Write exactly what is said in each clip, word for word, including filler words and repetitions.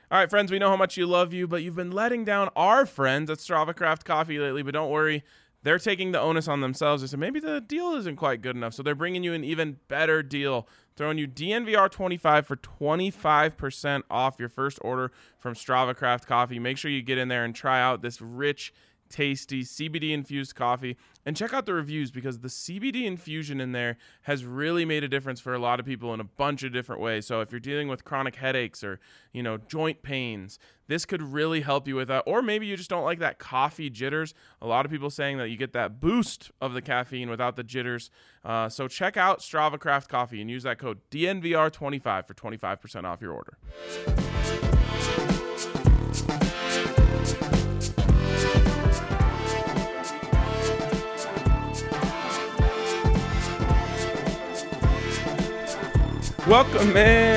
All right, friends, we know how much you love you, but you've been letting down our friends at Strava Craft Coffee lately, but don't worry. They're taking the onus on themselves. They said maybe the deal isn't quite good enough, so they're bringing you an even better deal, throwing you D N V R twenty-five for twenty-five percent off your first order from Strava Craft Coffee. Make sure you get in there and try out this rich, tasty C B D-infused coffee, and check out the reviews because the C B D infusion in there has really made a difference for a lot of people in a bunch of different ways. So if you're dealing with chronic headaches or, you know, joint pains, this could really help you with that. Or maybe you just don't like that coffee jitters. A lot of people saying that you get that boost of the caffeine without the jitters. Uh, so check out Strava Craft Coffee and use that code D N V R twenty-five for twenty-five percent off your order. Welcome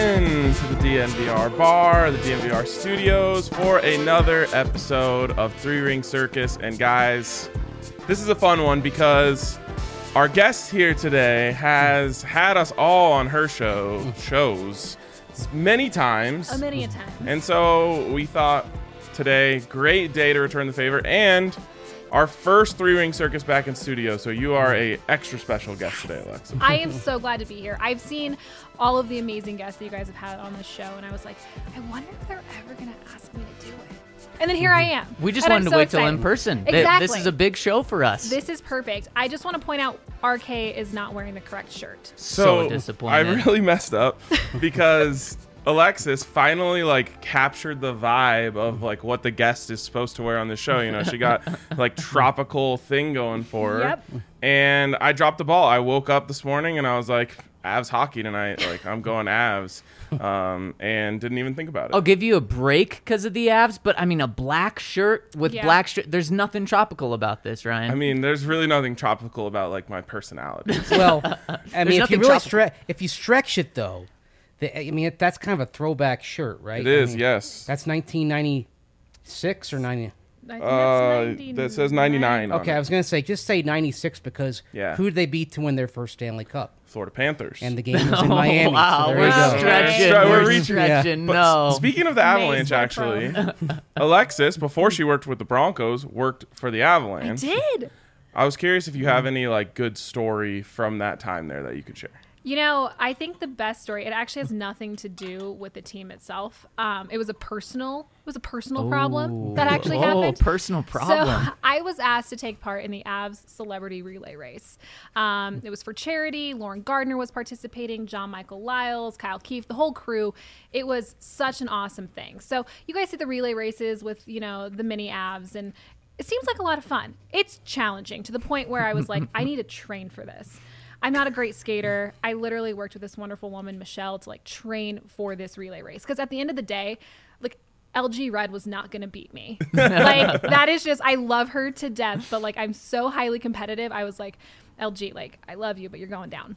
in to the D N V R bar, the D N V R studios for another episode of Three Ring Circus. And guys, this is a fun one because our guest here today has had us all on her show shows many times. A many a times. And so we thought today, great day to return the favor, and our first Three Ring Circus back in studio. So you are a extra special guest today, Alexa. I am so glad to be here. I've seen all of the amazing guests that you guys have had on this show, and I was like, I wonder if they're ever going to ask me to do it. And then here I am. We just and wanted I'm to so wait excited. till in person. Exactly. This is a big show for us. This is perfect. I just want to point out R K is not wearing the correct shirt. So, So disappointed. I really messed up because Alexis finally like captured the vibe of like what the guest is supposed to wear on the show. You know, she got like tropical thing going for her. Yep. And I dropped the ball. I woke up this morning and I was like, Avs hockey tonight. Like I'm going Avs. Um, and didn't even think about it. I'll give you a break because of the Avs, but I mean, a black shirt with Yeah. black shirt. There's nothing tropical about this, Ryan. I mean, there's really nothing tropical about like my personality. Well, I mean, if nothing you really tropical. stre- if you stretch it though, the, I mean, that's kind of a throwback shirt, right? It is, I mean, yes. That's nineteen ninety-six or ninety. I think Uh, that's that says ninety-nine. on Okay, it. I was gonna say just say ninety-six because Yeah. who did they beat to win their first Stanley Cup? Florida Panthers. And the game was in oh, Miami. wow, so there we're you go. stretching. Stre- we're we're reaching. stretching. But No. s- speaking of the Avalanche, Maze, actually, Alexis, before she worked with the Broncos, worked for the I Avalanche. did. I was curious if you have any like good story from that time there that you could share. You know, I think the best story, it actually has nothing to do with the team itself. Um, it was a personal, it was a personal problem that actually oh, happened. personal problem. So I was asked to take part in the Avs celebrity relay race. Um, it was for charity. Lauren Gardner was participating, John Michael Lyles, Kyle Keefe, the whole crew. It was such an awesome thing. So you guys see the relay races with, you know, the mini Avs, and it seems like a lot of fun. It's challenging to the point where I was like, I need to train for this. I'm not a great skater. I literally worked with this wonderful woman, Michelle, to like train for this relay race. Because at the end of the day, like L G Red was not going to beat me. Like that is just, I love her to death, but like I'm so highly competitive. I was like, L G, like I love you, but you're going down.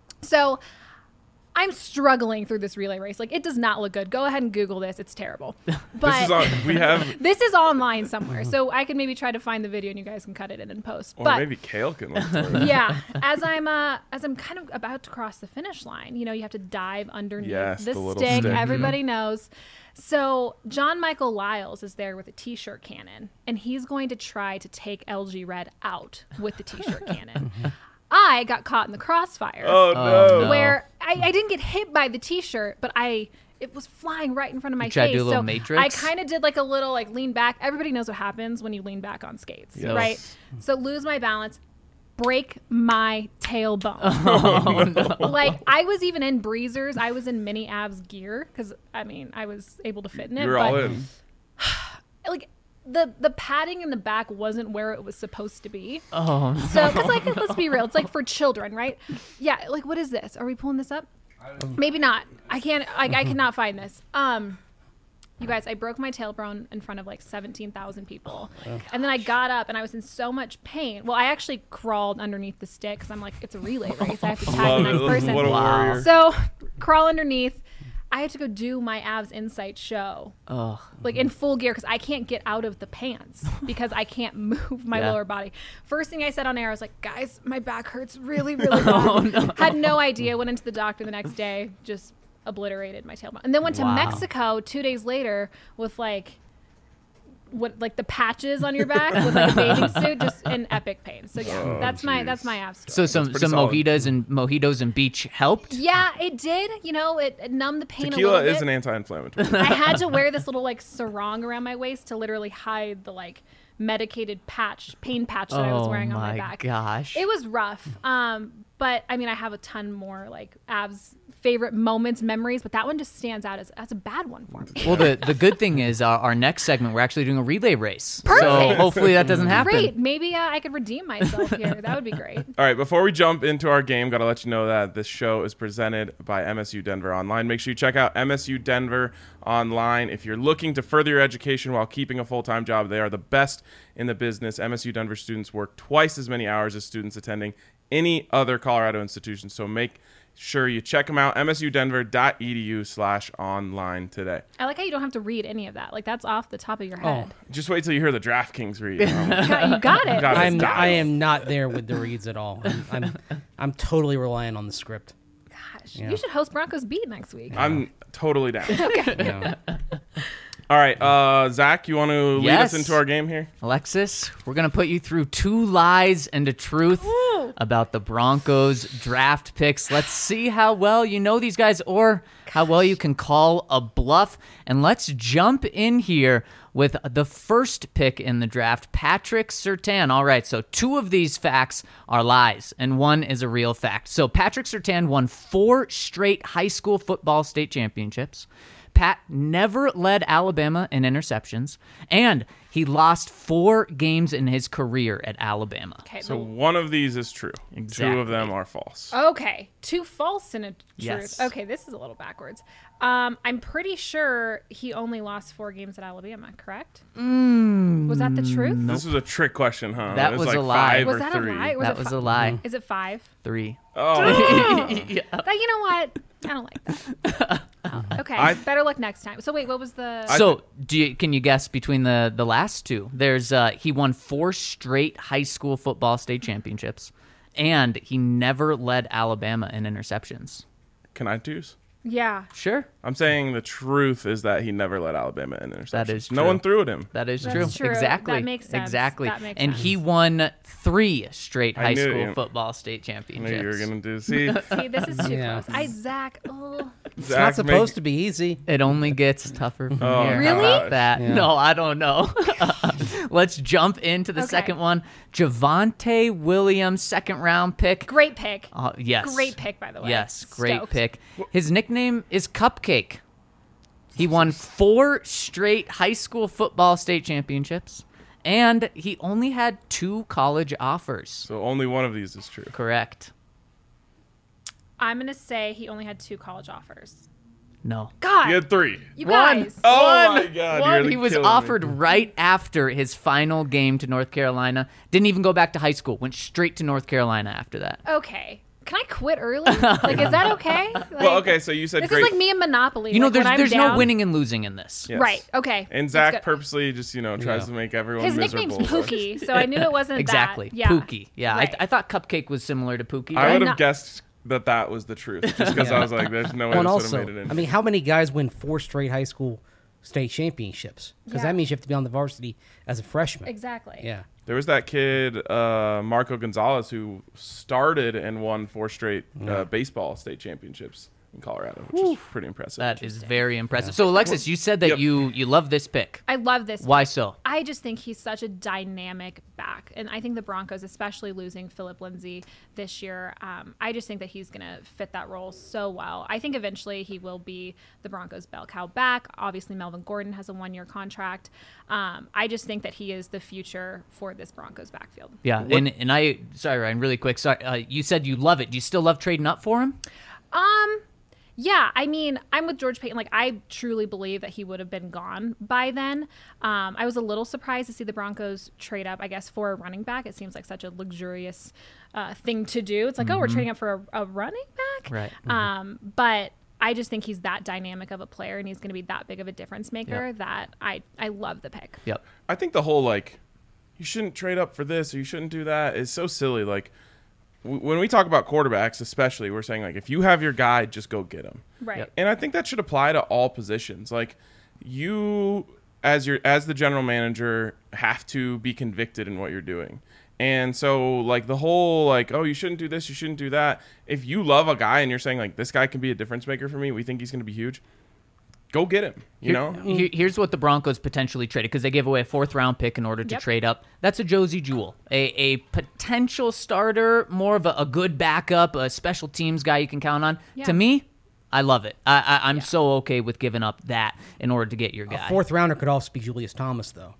So I'm struggling through this relay race. Like it does not look good. Go ahead and Google this. It's terrible. But This is on, we have, this is online somewhere. So I can maybe try to find the video and you guys can cut it in and post. or but maybe Kale can look for it. yeah, as I'm uh as I'm kind of about to cross the finish line, you know, you have to dive underneath Yes, the, the little stick. stick. Everybody knows. So John Michael Lyles is there with a t-shirt cannon, and he's going to try to take L G Red out with the t-shirt cannon. I got caught in the crossfire, Oh, Oh, no. no. where I, I didn't get hit by the t-shirt, but I it was flying right in front of my You tried to face. do a little so Matrix? I kind of did like a little like lean back. Everybody knows what happens when you lean back on skates, Yes. right? So lose my balance, break my tailbone. oh, no. Like I was even in breezers. I was in mini Avs gear because I mean I was able to fit in it. You're but all in. like the the padding in the back wasn't where it was supposed to be. Oh, So because like let's be real, it's like for children, right? Yeah. Like what is this? Are we pulling this up? Maybe not. I can't. I, I cannot find this. Um. You guys, I broke my tailbone in front of like seventeen thousand people. And then I got up and I was in so much pain. Well, I actually crawled underneath the stick because I'm like, it's a relay race. I have to tag the Love next it. person. What a Wow. warrior. So crawl underneath. I had to go do my Avs Insight show, oh. like in full gear, because I can't get out of the pants because I can't move my Yeah. lower body. First thing I said on air, I was like, guys, my back hurts really, really bad. Oh, no. Had no idea. Went into the doctor the next day. Just obliterated my tailbone. And then went to Wow. Mexico two days later with like what like the patches on your back with like a bathing suit, just in epic pain. So yeah, Oh, that's my geez. that's my abs So story. some pretty some solid. mojitos and mojitos and beach helped. Yeah, it did. You know, it, it numbed the pain a Tequila little bit. is an anti-inflammatory. I had to wear this little like sarong around my waist to literally hide the like medicated patch, pain patch that I was Oh wearing on my my back. gosh. It was rough. Um, but I mean, I have a ton more like abs favorite moments, memories, but that one just stands out as, as a bad one for me. Well, the, the good thing is uh, our next segment, we're actually doing a relay race. So Perfect. hopefully that doesn't happen. Great. Maybe uh, I could redeem myself here. That would be great. All right, before we jump into our game, got to let you know that this show is presented by M S U Denver Online. Make sure you check out M S U Denver Online. If you're looking to further your education while keeping a full-time job, they are the best in the business. M S U Denver students work twice as many hours as students attending any other Colorado institution. So make sure you check them out, m s u denver dot e d u slash online today. I like how you don't have to read any of that. Like that's off the top of your Oh, head. Just wait till you hear the DraftKings read. Um, You got, you got it. Got it. I'm Stop. I am not there with the reads at all. I'm I'm, I'm totally relying on the script. Gosh, Yeah. you should host Broncos Beat next week. I'm totally down. Yeah. All right, uh, Zach, you want to lead Yes. us into our game here? Alexis, we're going to put you through two lies and a truth Ooh. about the Broncos draft picks. Let's see how well you know these guys or how well you can call a bluff. And let's jump in here with the first pick in the draft, Patrick Surtain. All right, so two of these facts are lies, and one is a real fact. So Patrick Surtain won four straight high school football state championships. Pat never led Alabama in interceptions, and he lost four games in his career at Alabama. Okay. So the- one of these is true. Two Exactly. of them are false. Okay, two false and a truth. Yes. Okay, this is a little backwards. Um, I'm pretty sure he only lost four games at Alabama, correct? Mm, was that the truth? This was a trick question, huh? That It was like a lie. Five Was or that three. a lie? Was That it was fi- a lie. Is it five? Three. Oh, That, you know what? I don't like that. Oh, okay, I- better luck next time. So wait, what was the? So, do you, can you guess between the, the last two? There's uh, he won four straight high school football state championships, and he never led Alabama in interceptions. can I choose? yeah. Sure, I'm saying the truth is that he never led Alabama in interceptions. That is No true. one threw at him. that is That's true. true. Exactly. That makes sense. Exactly. That makes and sense. he won three straight I high knew school you- football state I knew championships. you were gonna do. See, See, this is too Yeah. close. I Zach. Oh. It's Zach not supposed make- to be easy. It only gets tougher from Oh, here. Really? How about that? Yeah. No, I don't know. Let's jump into the Okay. second one. Javonte Williams, second round pick. Great pick. Uh, yes. Great pick, by the way. Yes, great Stoked. pick. His nickname is Cupcake. He won four straight high school football state championships, and he only had two college offers. so only one of these is true. Correct. I'm gonna say he only had two college offers. No. God, You had three. you One. guys. Oh One. my God! One. You're He was killing me. offered right after his final game to North Carolina. Didn't even go back to high school. Went straight to North Carolina after that. Okay. Can I quit early? Like, is that okay? Like, Well, okay. So you said This great. is like me and Monopoly. You know, like, when there's I'm there's no down- winning and losing in this. Yes. Right. Okay. And That's Zach good. purposely just you know tries Yeah. to make everyone His miserable. nickname's Pookie, so I knew it wasn't Exactly. that. Yeah. Pookie. Yeah. Right. I, I thought Cupcake was similar to Pookie. I right? would have Not- guessed that that was the truth, just because I was like, "There's no way Well, and this would have also, made it in." I mean, how many guys win four straight high school state championships? Because Yeah. that means you have to be on the varsity as a freshman. Exactly. Yeah. There was that kid, uh, Marco Gonzalez, who started and won four straight uh, baseball state championships in Colorado, which is pretty impressive. That is very impressive. So, Alexis, you said that Yep. you you love this pick. I love this. Why pick. so? I just think he's such a dynamic back. And I think the Broncos, especially losing Philip Lindsay this year, um, I just think that he's going to fit that role so well. I think eventually he will be the Broncos' bell cow back. Obviously, Melvin Gordon has a one-year contract. Um, I just think that he is the future for this Broncos backfield. Yeah, and and I sorry Ryan, really quick. Sorry, uh, you said you love it. Do you still love trading up for him? Um, yeah, I mean, I'm with George Payton. Like, I truly believe that he would have been gone by then. Um, I was a little surprised to see the Broncos trade up, I guess, for a running back. It seems like such a luxurious uh, thing to do. It's like, oh, we're trading up for a, a running back? Right. Um, but I just think he's that dynamic of a player, and he's going to be that big of a difference maker Yep. that I, I love the pick. Yep. I think the whole like, you shouldn't trade up for this or you shouldn't do that is so silly. Like, w- when we talk about quarterbacks, especially, we're saying like if you have your guy, just go get him. Right. Yep. And I think that should apply to all positions. Like you, as your as the general manager, have to be convicted in what you're doing. And so like the whole like, oh, you shouldn't do this, you shouldn't do that. If you love a guy and you're saying like this guy can be a difference maker for me, we think he's going to be huge. Go get him. You Here- know. here- here's what the Broncos potentially traded because they gave away a fourth round pick in order to Yep. trade up. That's a Josie Jewell, a, a potential starter, more of a, a good backup, a special teams guy you can count on. Yeah. To me, I love it. I, I, I'm Yeah. so okay with giving up that in order to get your guy. A fourth rounder could also be Julius Thomas, though,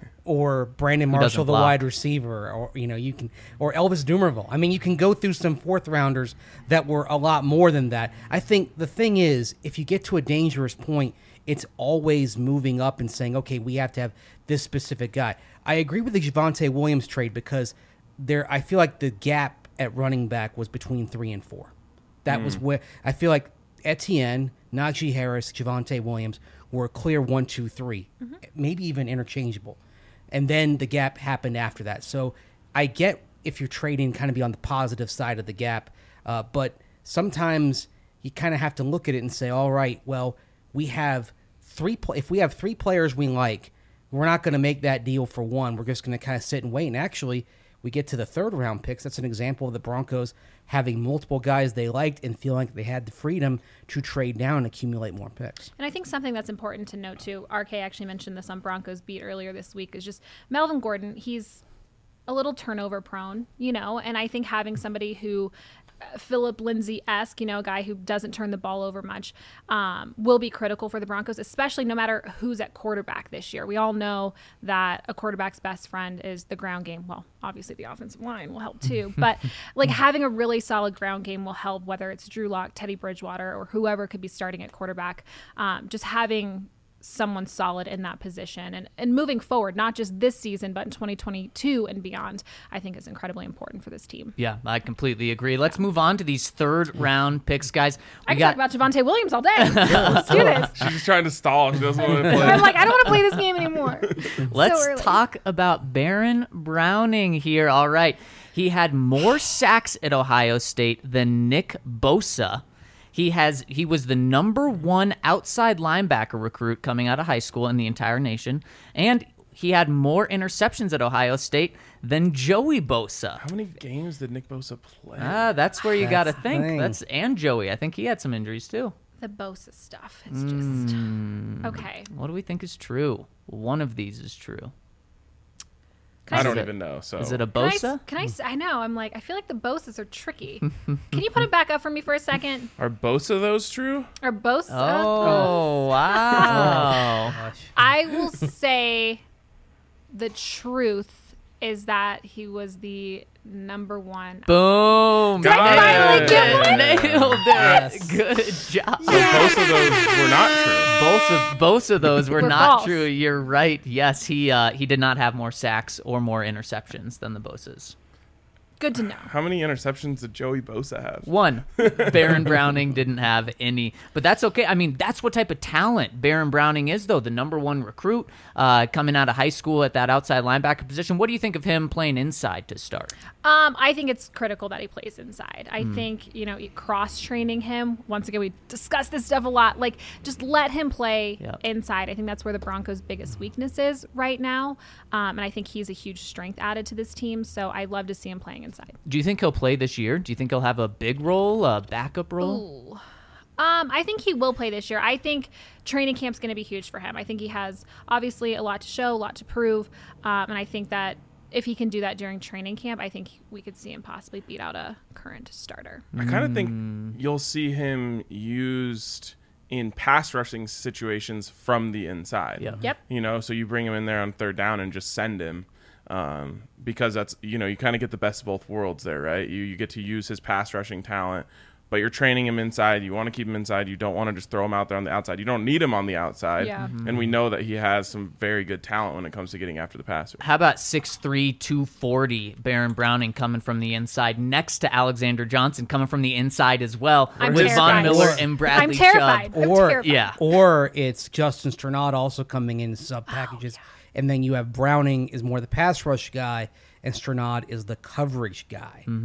or Brandon doesn't Marshall, the block. wide receiver, or you know, you can, or Elvis Dumervil. I mean, you can go through some fourth rounders that were a lot more than that. I think the thing is, if you get to a dangerous point, it's always moving up and saying, okay, we have to have this specific guy. I agree with the Javonte Williams trade because there, I feel like the gap at running back was between three and four. That was where I feel like Etienne, Najee Harris, Javonte Williams were a clear one, two, three, maybe even interchangeable. And then the gap happened after that. So I get if you're trading kind of be on the positive side of the gap, uh, but sometimes you kind of have to look at it and say, all right, well, we have three. Pl- if we have three players we like, we're not going to make that deal for one. We're just going to kind of sit and wait. And actually, we get to the third round picks. That's an example of the Broncos having multiple guys they liked and feeling like they had the freedom to trade down and accumulate more picks. And I think something that's important to note too, R K actually mentioned this on Broncos Beat earlier this week, is just Melvin Gordon. He's a little turnover prone, you know, and I think having somebody who uh, Philip Lindsay-esque, you know, a guy who doesn't turn the ball over much, um, will be critical for the Broncos, especially no matter who's at quarterback this year. We all know that a quarterback's best friend is the ground game. Well, obviously the offensive line will help too, but like having a really solid ground game will help, whether it's Drew Lock, Teddy Bridgewater, or whoever could be starting at quarterback. Um, just having someone solid in that position and, and moving forward, not just this season, but in twenty twenty-two and beyond, I think is incredibly important for this team. Yeah, I completely agree. Let's move on to these third round picks, guys. We I can got talk about Javonte Williams all day. Let's do this. She's just trying to stall. She doesn't want to play. I'm like, I don't want to play this game anymore. Let's So early. talk about Baron Browning here. All right. He had more sacks at Ohio State than Nick Bosa. He has he was the number one outside linebacker recruit coming out of high school in the entire nation, and he had more interceptions at Ohio State than Joey Bosa. How many games did Nick Bosa play? Ah, that's where you got to That's the think. thing. That's and Joey. I think he had some injuries too. The Bosa stuff is just Hmm. okay. What do we think is true? One of these is true. Can I don't it- even know. So Is it a Can I, Bosa? s- can I? s- I know. I'm like, I feel like the Bosas are tricky. Can you put it back up for me for a second? are both of those true? Or Bosa? Oh, wow. Gosh. I will say the truth is that he was the number one. Boom. Did I finally get one? Nailed it. Yes. Good job. So both of those were not true. Both of both of those were Were not false. true. You're right. Yes, he uh, he did not have more sacks or more interceptions than the Bosas. Good to know. How many interceptions did Joey Bosa have? One, Baron Browning didn't have any, but that's okay. I mean, that's what type of talent Baron Browning is, though. The number one recruit uh, coming out of high school at that outside linebacker position. What do you think of him playing inside to start? Um, I think it's critical that he plays inside. I Hmm. think, you know, cross training him. Once again, we discussed this stuff a lot. Like, just let him play Yep. inside. I think that's where the Broncos' biggest weakness is right now. Um, and I think he's a huge strength added to this team. So I love to see him playing inside. Do you think he'll play this year? Do you think he'll have a big role, a backup role? Ooh. Um, I think he will play this year. I think training camp's going to be huge for him. I think he has obviously a lot to show, a lot to prove. Um, and I think that if he can do that during training camp, I think we could see him possibly beat out a current starter. I kind of think you'll see him used in pass rushing situations from the inside. Yeah. Yep. You know, so you bring him in there on third down and just send him. Um, because that's, you know, you kind of get the best of both worlds there, right? You you get to use his pass rushing talent, but you're training him inside. You want to keep him inside. You don't want to just throw him out there on the outside. You don't need him on the outside. Yeah. And we know that he has some very good talent when it comes to getting after the passer. How about six three, two forty Baron Browning coming from the inside next to Alexander Johnson coming from the inside as well I'm with Von terrified. Miller Or- and Bradley I'm terrified. Chubb. I'm Or- terrified. Yeah. Or it's Justin Strnad also coming in sub packages. And then you have Browning is more the pass rush guy, and Strnad is the coverage guy. Mm-hmm.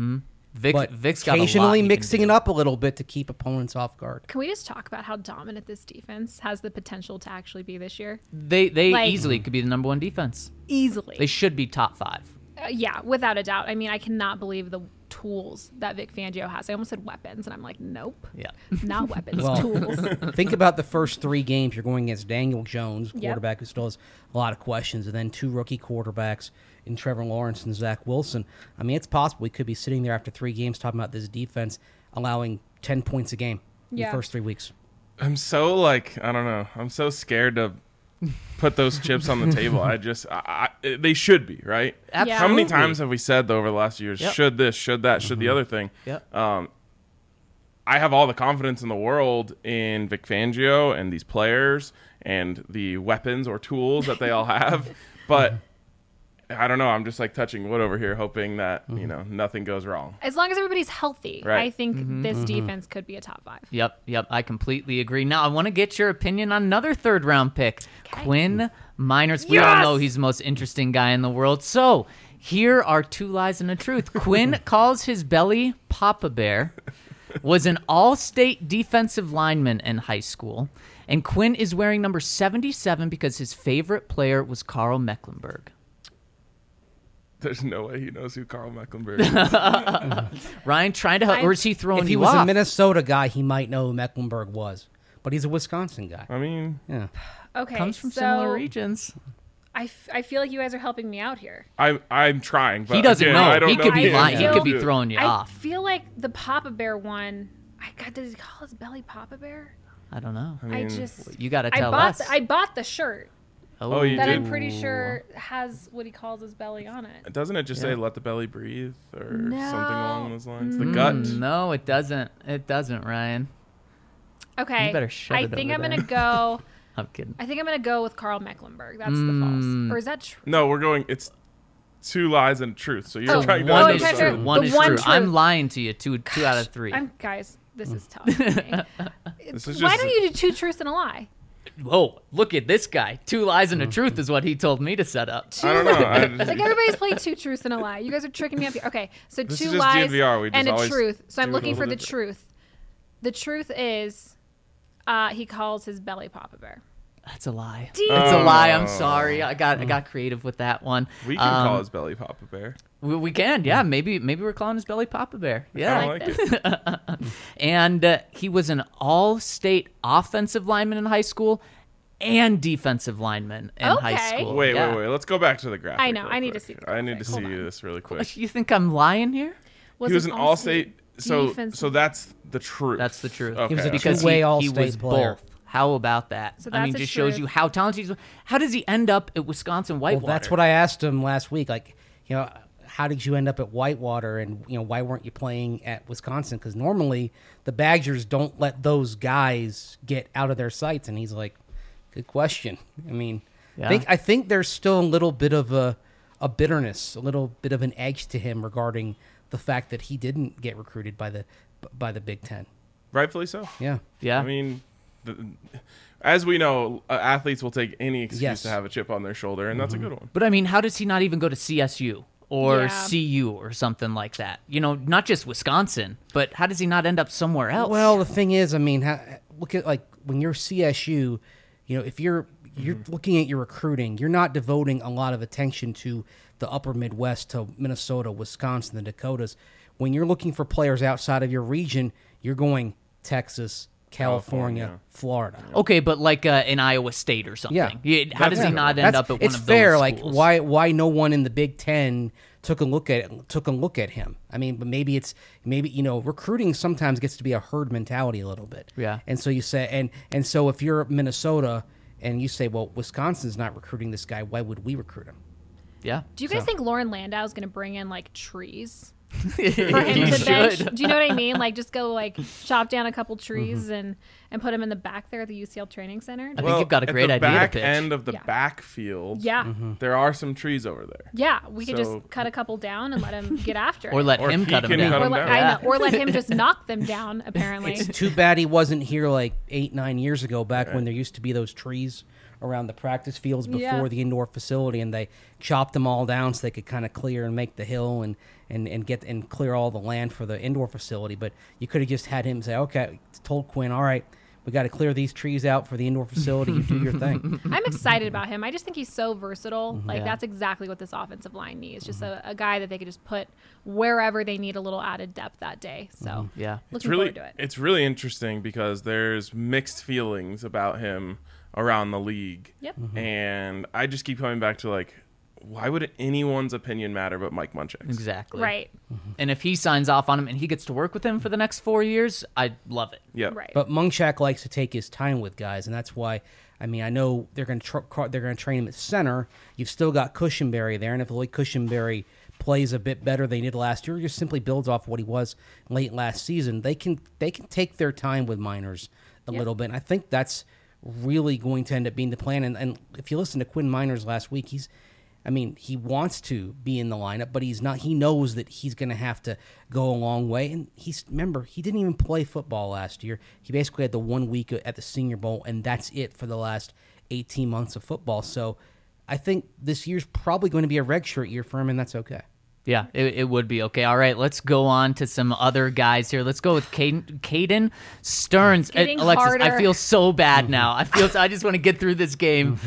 Vic, but Vic's got a lot occasionally he can mixing do. it up a little bit to keep opponents off guard. Can we just talk about how dominant this defense has the potential to actually be this year? They they Like- easily could be the number one defense. Easily. They should be top five. Uh, yeah, without a doubt. I mean, I cannot believe the tools that Vic Fangio has. I almost said weapons, and I'm like, nope, Yeah. not weapons, Well, tools. Think about the first three games. You're going against Daniel Jones, Yep. quarterback who still has a lot of questions, and then two rookie quarterbacks in Trevor Lawrence and Zach Wilson. I mean, it's possible we could be sitting there after three games talking about this defense allowing ten points a game in Yeah. the first three weeks. I'm so like I don't know. I'm so scared to put those chips on the table. I just I, I, they should be right. Yeah. How many Absolutely. times have we said though over the last years? Yep. Should this? Should that? Should the other thing? Yep. Um, I have all the confidence in the world in Vic Fangio and these players and the weapons or tools that they all have, but I don't know. I'm just like touching wood over here, hoping that you know nothing goes wrong. As long as everybody's healthy, Right. I think this defense could be a top five. Yep, yep, I completely agree. Now, I want to get your opinion on another third round pick, Okay. Quinn Miners. We all Yes! know he's the most interesting guy in the world. So, here are two lies and a truth. Quinn calls his belly Papa Bear, was an all state defensive lineman in high school, and Quinn is wearing number seventy-seven because his favorite player was Carl Mecklenburg. There's no way he knows who Carl Mecklenburg is. Ryan, trying to help, I- or is he throwing If he you was off? a Minnesota guy, he might know who Mecklenburg was, but he's a Wisconsin guy. I mean, Yeah. Okay, Comes from so similar regions. I, f- I feel like you guys are helping me out here. I'm I'm trying, but He doesn't again, know. I don't He know could the be I lying. He feel- could be throwing you I off. feel like the Papa Bear one. I God, did he call his belly Papa Bear? I don't know. I I mean, just You got to I tell bought us. the, I bought the shirt Oh, you that did? I'm pretty sure has what he calls his belly on it. Doesn't it just Yeah. say "let the belly breathe" or something No. along those lines? The Mm, gut. No, it doesn't. It doesn't, Ryan. Okay, You better shove I it think over I'm there. gonna go. I'm kidding. I think I'm gonna go with Carl Mecklenburg. That's the Mm. false, or is that true? No, we're going. It's two lies and a truth. So you're Oh, trying to. oh, One I'm is trying to- true. the One is one true. I'm truth. lying to you. Two, two out of three. I'm guys. This is tough. For me. This is Why just- don't you do two truths and a lie? Whoa! Look at this guy. Two lies and a truth is what he told me to set up. I don't know. I just, Like everybody's played two truths and a lie. You guys are tricking me up here. Okay, so This two is just lies D N V R. We just and a always truth. So I'm do it a looking for little the different. truth. The truth is, uh, he calls his belly Papa Bear. That's a lie. Damn. That's a lie. I'm Oh. sorry. I got I got creative with that one. we can Um, call his belly Papa Bear. We, we can. Yeah. Maybe maybe we're calling his belly Papa Bear. Yeah. I like like this. it. And uh, he was an all-state offensive lineman in high school and defensive lineman in high Okay. school. Wait, Yeah. wait, wait. Let's go back to the graphic. I know, real I need to quick. see the I need to graphic. see Hold on. this really quick. You think I'm lying here? Was he was an an all-state. So, defensive- so that's the truth. That's the truth. Okay. He was a Because two-way he, he all-state was player. both. How about that? So I mean, that's a just shows truth. you how talented he is. How does he end up at Wisconsin Whitewater? Well, that's what I asked him last week. Like, you know, how did you end up at Whitewater, and you know, why weren't you playing at Wisconsin? Because normally the Badgers don't let those guys get out of their sights. And he's like, good question. I mean, Yeah. I think I think there's still a little bit of a a bitterness, a little bit of an edge to him regarding the fact that he didn't get recruited by the by the Big Ten. Rightfully so. Yeah. Yeah. I mean, the, as we know, uh, athletes will take any excuse Yes. to have a chip on their shoulder, and that's a good one. But I mean, how does he not even go to C S U or Yeah. C U or something like that? You know, not just Wisconsin, but how does he not end up somewhere else? Well, the thing is, I mean, ha look at like when you're C S U, you know, if you're you're looking at your recruiting, you're not devoting a lot of attention to the upper Midwest, to Minnesota, Wisconsin, the Dakotas. When you're looking for players outside of your region, you're going Texas, California, California. Florida. okay, but like uh, in Iowa State or something. Yeah. Yeah, how does That's- he not That's- end up at one it's of fair. those Like schools? why why no one in the Big Ten took a look at took a look at him. I mean, but maybe it's maybe you know recruiting sometimes gets to be a herd mentality a little bit. Yeah. And so you say and and so if you're Minnesota and you say, well, Wisconsin's not recruiting this guy, why would we recruit him? Yeah. Do you guys So- think Lauren Landau is going to bring in like trees For for him to bench? Do you know what I mean? Like just go like chop down a couple trees Mm-hmm. and and put him in the back there at the U C L Training Center. I think you've got a great at the idea to back pitch. end of the Yeah. backfield, Yeah. there are some trees over there. Yeah, we could So- just cut a couple down and let him get after Or it. let Or him he cut him can down. cut or him let, down. I know, Yeah. or let him just knock them down. Apparently, It's too bad he wasn't here like eight nine years ago, back when there used to be those trees around the practice fields before Yeah. the indoor facility, and they chopped them all down so they could kind of clear and make the hill and, and, and get and clear all the land for the indoor facility. But you could have just had him say, okay, told Quinn, all right, we got to clear these trees out for the indoor facility. You do your thing. I'm excited about him. I just think he's so versatile. Like Yeah. that's exactly what this offensive line needs. Just a, a guy that they could just put wherever they need a little added depth that day. So Yeah. It's looking really forward to it. it's really interesting because there's mixed feelings about him around the league. Yep. And I just keep coming back to like, why would anyone's opinion matter but Mike Munchak's? Exactly. Right. And if he signs off on him and he gets to work with him for the next four years, I love it. Yeah. Right. But Munchak likes to take his time with guys, and that's why. I mean, I know they're going to tr- they're going to train him at center. You've still got Cushenberry there, and if Lloyd Cushenberry plays a bit better than he did last year, or just simply builds off what he was late last season, they can they can take their time with Miners a Yeah. little bit. And I think that's really going to end up being the plan. And, and if you listen to Quinn Miners last week, he's I mean, he wants to be in the lineup, but he's not. He knows that he's going to have to go a long way. And he's remember, he didn't even play football last year. He basically had the one week at the Senior Bowl, and that's it for the last eighteen months of football. So I think this year's probably going to be a redshirt year for him, and that's okay. Yeah, it, it would be. Okay, all right, let's go on to some other guys here. Let's go with Caden, Caden Stearns. Getting Uh, Alexis, I harder. feel so bad now. I feel I just want to get through this game.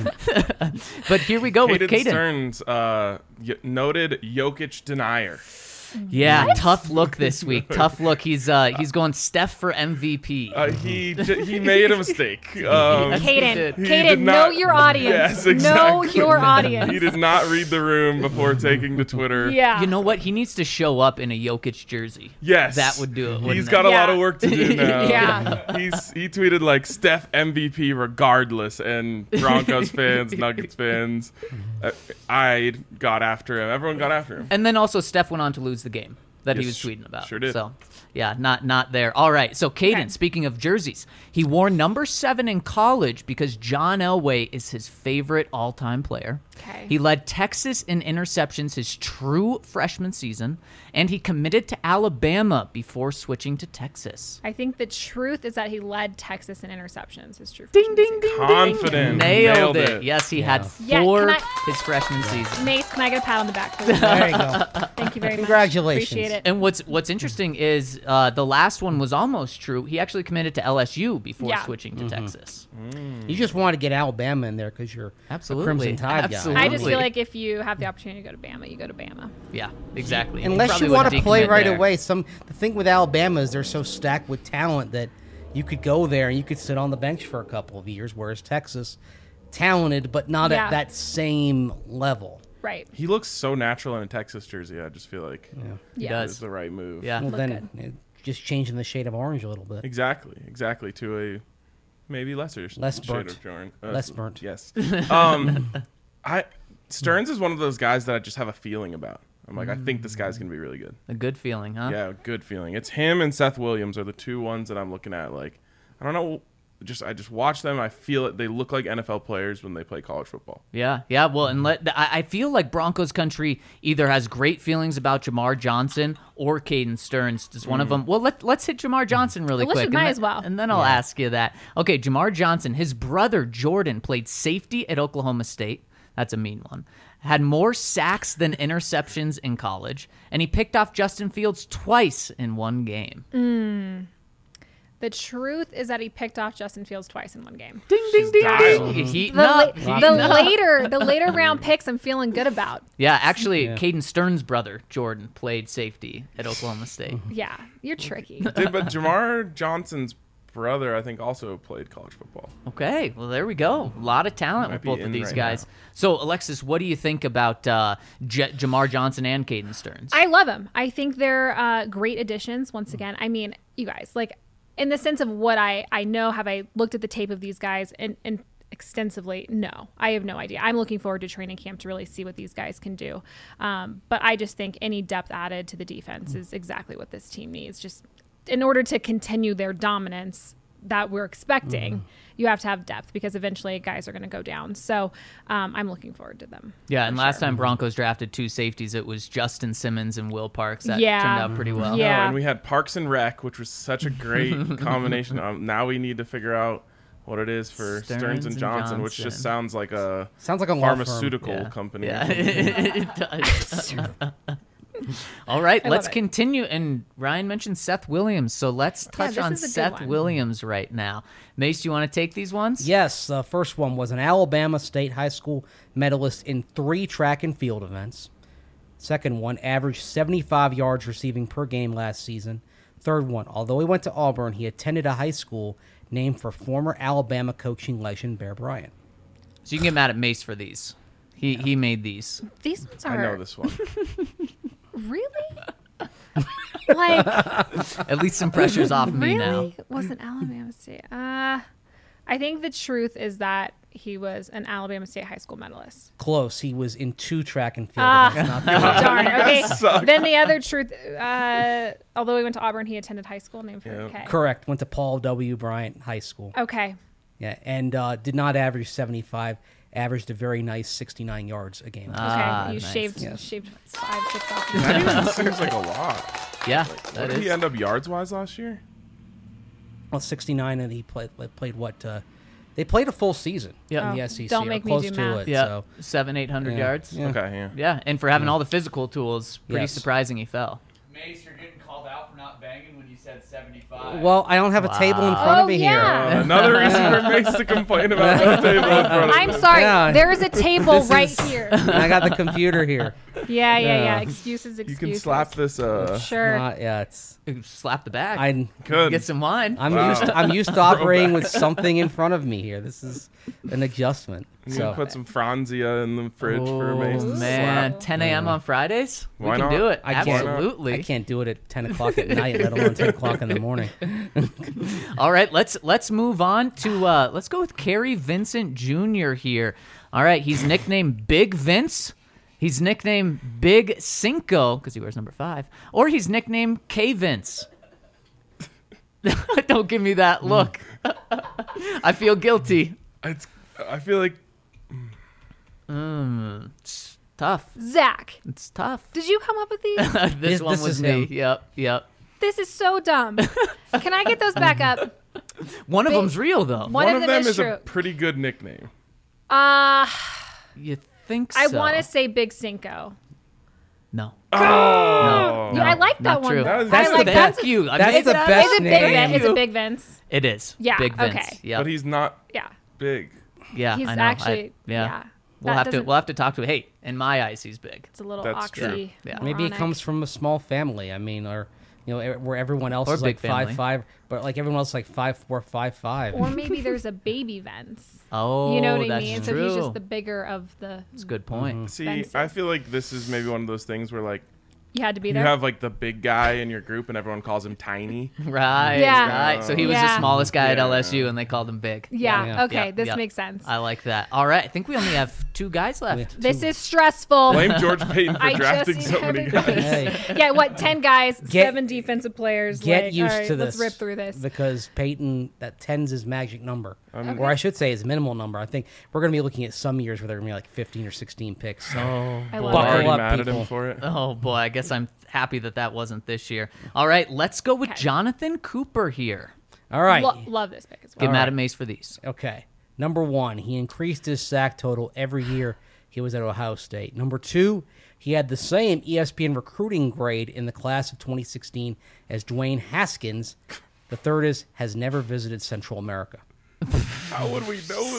But here we go with Caden Caden. Stearns, uh, y- noted Jokic denier. Yeah, tough look this week. Tough look. He's uh he's going Steph for M V P. Uh, he j- he made a mistake. Um, Caden, did. he Caden, did know not- your audience. Yes, Know exactly. your audience. He did not read the room before taking to Twitter. Yeah. You know what? He needs to show up in a Jokic jersey. Yes, That would do it, wouldn't He's it? got a lot Yeah. of work to do now. Yeah. He's he tweeted like Steph M V P regardless, and Broncos fans, Nuggets fans, uh, I got after him. Everyone got after him. And then also Steph went on to lose the game that he Yes, was tweeting about. sure did. So, yeah, not not there. All right. So, Caden, Okay. speaking of jerseys, he wore number seven in college because John Elway is his favorite all-time player. Okay. He led Texas in interceptions his true freshman season, and he committed to Alabama before switching to Texas. I think the truth is that he led Texas in interceptions. His true Ding, freshman ding, season. ding, Confident. Nailed, Nailed it. it. Yes, he had Yeah, four can I- his freshman season. Mace, can I get a pat on the back, please? There you go. Thank you very much. Congratulations. Appreciate it. And what's what's interesting is uh, the last one was almost true. He actually committed to L S U before Yeah. switching to Texas. You just want to get Alabama in there because you're Absolutely. a Crimson Tide Absolutely. I just Absolutely. feel like if you have the opportunity to go to Bama, you go to Bama. Yeah, exactly. And he Unless probably you want wouldn't to play decommit right there. away. Some the thing with Alabama is they're so stacked with talent that you could go there and you could sit on the bench for a couple of years, whereas Texas, talented but not Yeah. at that same level. Right. He looks so natural in a Texas jersey. I just feel like He Yeah. does. it's the right move. Yeah. Well, Look then it, just changing the shade of orange a little bit. Exactly. Exactly. To a maybe lesser s- Less shade burnt. of Jordan. Uh, Less burnt. Yes. Um, I Stearns is one of those guys that I just have a feeling about. I'm like, I think this guy's gonna be really good. A good feeling, huh? Yeah, good feeling. It's him and Seth Williams are the two ones that I'm looking at. Like, I don't know. Just I just watch them. I feel it. They look like N F L players when they play college football. Yeah, yeah. Well, and let I, I feel like Broncos country either has great feelings about Jamar Johnson or Caden Stearns. Does one of them? Well, let let's hit Jamar Johnson really Well, let's quick. just- and might then- as well. And then I'll ask you that. Okay, Jamar Johnson. His brother Jordan played safety at Oklahoma State. That's a mean one. Had more sacks than interceptions in college, and he picked off Justin Fields twice in one game. The truth is that he picked off Justin Fields twice in one game. Ding ding ding dialed. ding. Heating The, up. la- heating the up. later, the later round picks, I'm feeling good about. Yeah, actually, Yeah. Caden Stearns' brother Jordan played safety at Oklahoma State. Yeah, you're tricky. Did, but Jamar Johnson's brother, I think, also played college football. Okay, well there we go. A lot of talent Might with be both of in these right guys. now. So, Alexis, what do you think about uh, J- Jamar Johnson and Caden Stearns? I love them. I think they're uh, great additions. Once again, I mean, you guys, like, in the sense of what I I know, have I looked at the tape of these guys and and extensively? No, I have no idea. I'm looking forward to training camp to really see what these guys can do. Um, but I just think any depth added to the defense is exactly what this team needs. Just in order to continue their dominance that we're expecting, Mm-hmm. you have to have depth because eventually guys are going to go down. So um, I'm looking forward to them. yeah, for and last sure. time Broncos drafted two safeties, it was Justin Simmons and Will Parks. That Yeah. turned out pretty well. Yeah. Oh, and we had Parks and Rec, which was such a great combination. Um, now we need to figure out what it is for Stearns Stearns, and and Johnson, which Johnson. just sounds like a Sounds like a law firm. pharmaceutical Yeah. company. Yeah, it does. All right, I let's love it. continue. And Ryan mentioned Seth Williams, so let's touch this on is a good Seth one. Williams right now. Mace, do you want to take these ones? Yes, the first one was an Alabama State High School medalist in three track and field events. Second one, averaged seventy-five yards receiving per game last season. Third one, although he went to Auburn, he attended a high school named for former Alabama coaching legend Bear Bryant. So you can get mad at Mace for these. He he made these. These ones I are know this one. really like At least some pressure's off me now. really wasn't Alabama State. Uh, I think the truth is that he was an Alabama State high school medalist. Close. He was in two track and field Ah. events. Not three. Darn. Okay. suck. Then the other truth, uh, although he went to Auburn, he attended high school named for Yeah. okay. Correct. Went to Paul W. Bryant High School. Okay. Yeah, and uh, did not average seventy-five. Averaged a very nice sixty-nine yards a game. Okay. Ah, you nice. shaved Yes. shaved five six off. That even seems like a lot. Yeah, What that did he is. end up yards wise last year? Well, sixty-nine, and he played played what? Uh, they played a full season Yeah. in Oh, the S E C. don't or make me close do to math. it. Yeah, So, seven, eight hundred Yeah. yards. Yeah. Okay, yeah. Yeah, and for having all the physical tools, pretty Yes. surprising he fell. Mace, you're getting called out for not banging when you said seventy-five. well, I don't have a table in Wow. front of Oh, me yeah. Uh, another reason for Mace to complain about no table in front of I'm him. sorry. Yeah. There is a table This right is- here. here. I got the computer here. Yeah, yeah, yeah. Yeah. Excuses, You excuses. can slap this. Uh, Sure. Not, yeah, it's. Slap the back. I, Good. Get some wine. I'm Wow. used. To, I'm used to operating with something in front of me here. This is an adjustment. You So can put some Franzia in the fridge for oh, Mace to man, slap. ten a.m. on Fridays? Why we can not? do it. I can't- Absolutely. I can't do it at ten o'clock at night, let alone ten o'clock in the morning. All right, let's let's move on to uh, let's go with Kerry Vincent Junior here. All right, he's nicknamed Big Vince. He's nicknamed Big Cinco because he wears number five, or he's nicknamed K Vince. Don't give me that look. I feel guilty. It's, I feel like Mm, it's tough. Zach, It's tough. did you come up with these? this This- one this was is me. him. Yep, yep. This is so dumb. Can I get those back up? One of Big- them's real though. One, one, of of them, them is, is true. a pretty good nickname. Uh, You think so? I want to say Big Cinco. No. Oh, No. Yeah, I like that not one. true. though. That is- I That's like the that's Thank you. I that's made the that best up. Is it name. Big Thank Vince? Is you. it Big Vince? It is. Yeah, Big Vince. okay. Yep. but he's not Yeah. big. yeah, He's I know. I- actually yeah. yeah. We'll That have to doesn't- we'll have to talk to hey, in my eyes he's big. It's a little That's true. oxy. Yeah. Maybe it comes from a small family. I mean, or you know, e- where everyone else Or is big like family. five five, but like everyone else is like five four, five five. Or maybe there's a baby Vince. Oh, You know what I that's mean? true. So he's just the bigger of the. That's a good point. See, Fences. I feel like this is maybe one of those things where like You had to be you there. have like the big guy in your group and everyone calls him tiny. Right. Yeah. Right. So he was the Yeah. smallest guy at Yeah. L S U and they called him big. yeah. Yeah. Okay. Yeah, This yeah. makes sense. I like that. All right. I think we only have two guys left. This is stressful. Blame George Payton for I drafting just so many haven't- guys. Hey, Yeah. What? Ten guys, Get- seven defensive players. get like, used all right, to this. Let's rip through this. because Peyton, that ten's his magic number, I'm- or I should say his minimal number. I think we're going to be looking at some years where they're going to be like fifteen or sixteen picks. So Oh, I boy. love I'm it. already up, mad at people. him for it. Oh boy, I guess I'm happy that that wasn't this year. All right, let's go with Okay. Jonathan Cooper here. all right, Lo- love this pick as well. Give All Madam right. Mace for these. okay. Number one, he increased his sack total every year he was at Ohio State. Number two, he had the same E S P N recruiting grade in the class of twenty sixteen as Dwayne Haskins. The third is has never visited Central America. How would we know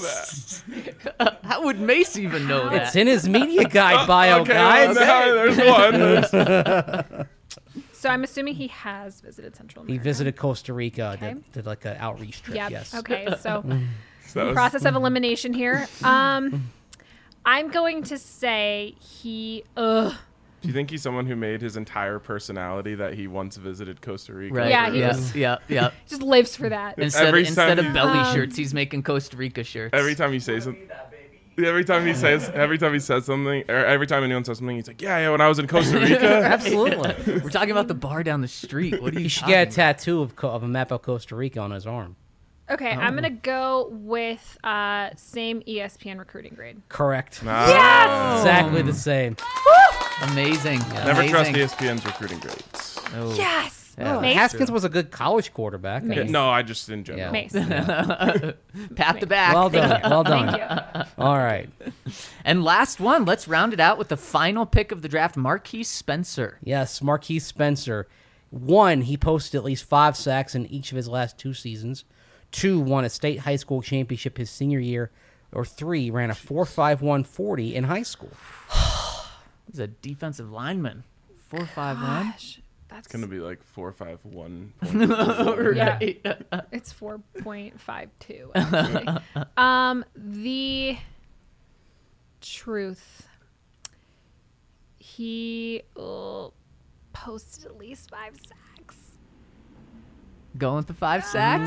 that? How would Mace even know that? It's in his media guide bio, okay, guys. well, now there's one. There's- So I'm assuming he has visited Central He America. visited Costa Rica, Okay. did, did like an outreach trip. Yep. Yes. Okay. So that was- process of elimination here. Um, I'm going to say he. Ugh. Do you think he's someone who made his entire personality that he once visited Costa Rica? Right. Yeah, for- he yeah, was- yeah, yeah. Just lives for that. Instead, Every of, instead time of you- belly Um, shirts, he's making Costa Rica shirts. Every time you say something. Every time he says, every time he says something, or every time anyone says something, he's like, "Yeah, yeah." When I was in Costa Rica, Absolutely. We're talking about the bar down the street. What are you? He should talking get a about? tattoo of, Co- of a map of Costa Rica on his arm. Okay, Oh. I'm gonna go with uh, same E S P N recruiting grade. Correct. Nah. Exactly the same. Amazing. Never Amazing. trust E S P N's recruiting grades. Oh. Yes. Yeah, Well, Mace? Haskins was a good college quarterback. I Mace. Yeah, mean, no, I just in general. Yeah. Mace. Pat the back. well done. Well done. Thank you. All right. And last one, let's round it out with the final pick of the draft, Marquise Spencer. Yes, Marquise Spencer. One, he posted at least five sacks in each of his last two seasons. Two, won a state high school championship his senior year. Or three, ran a four five one forty in high school. He's a defensive lineman. four five one. Gosh, that's It's gonna be like four five one. yeah. It's four point five two. Actually, um, the truth. He uh, posted at least five sacks. Going with the five sacks?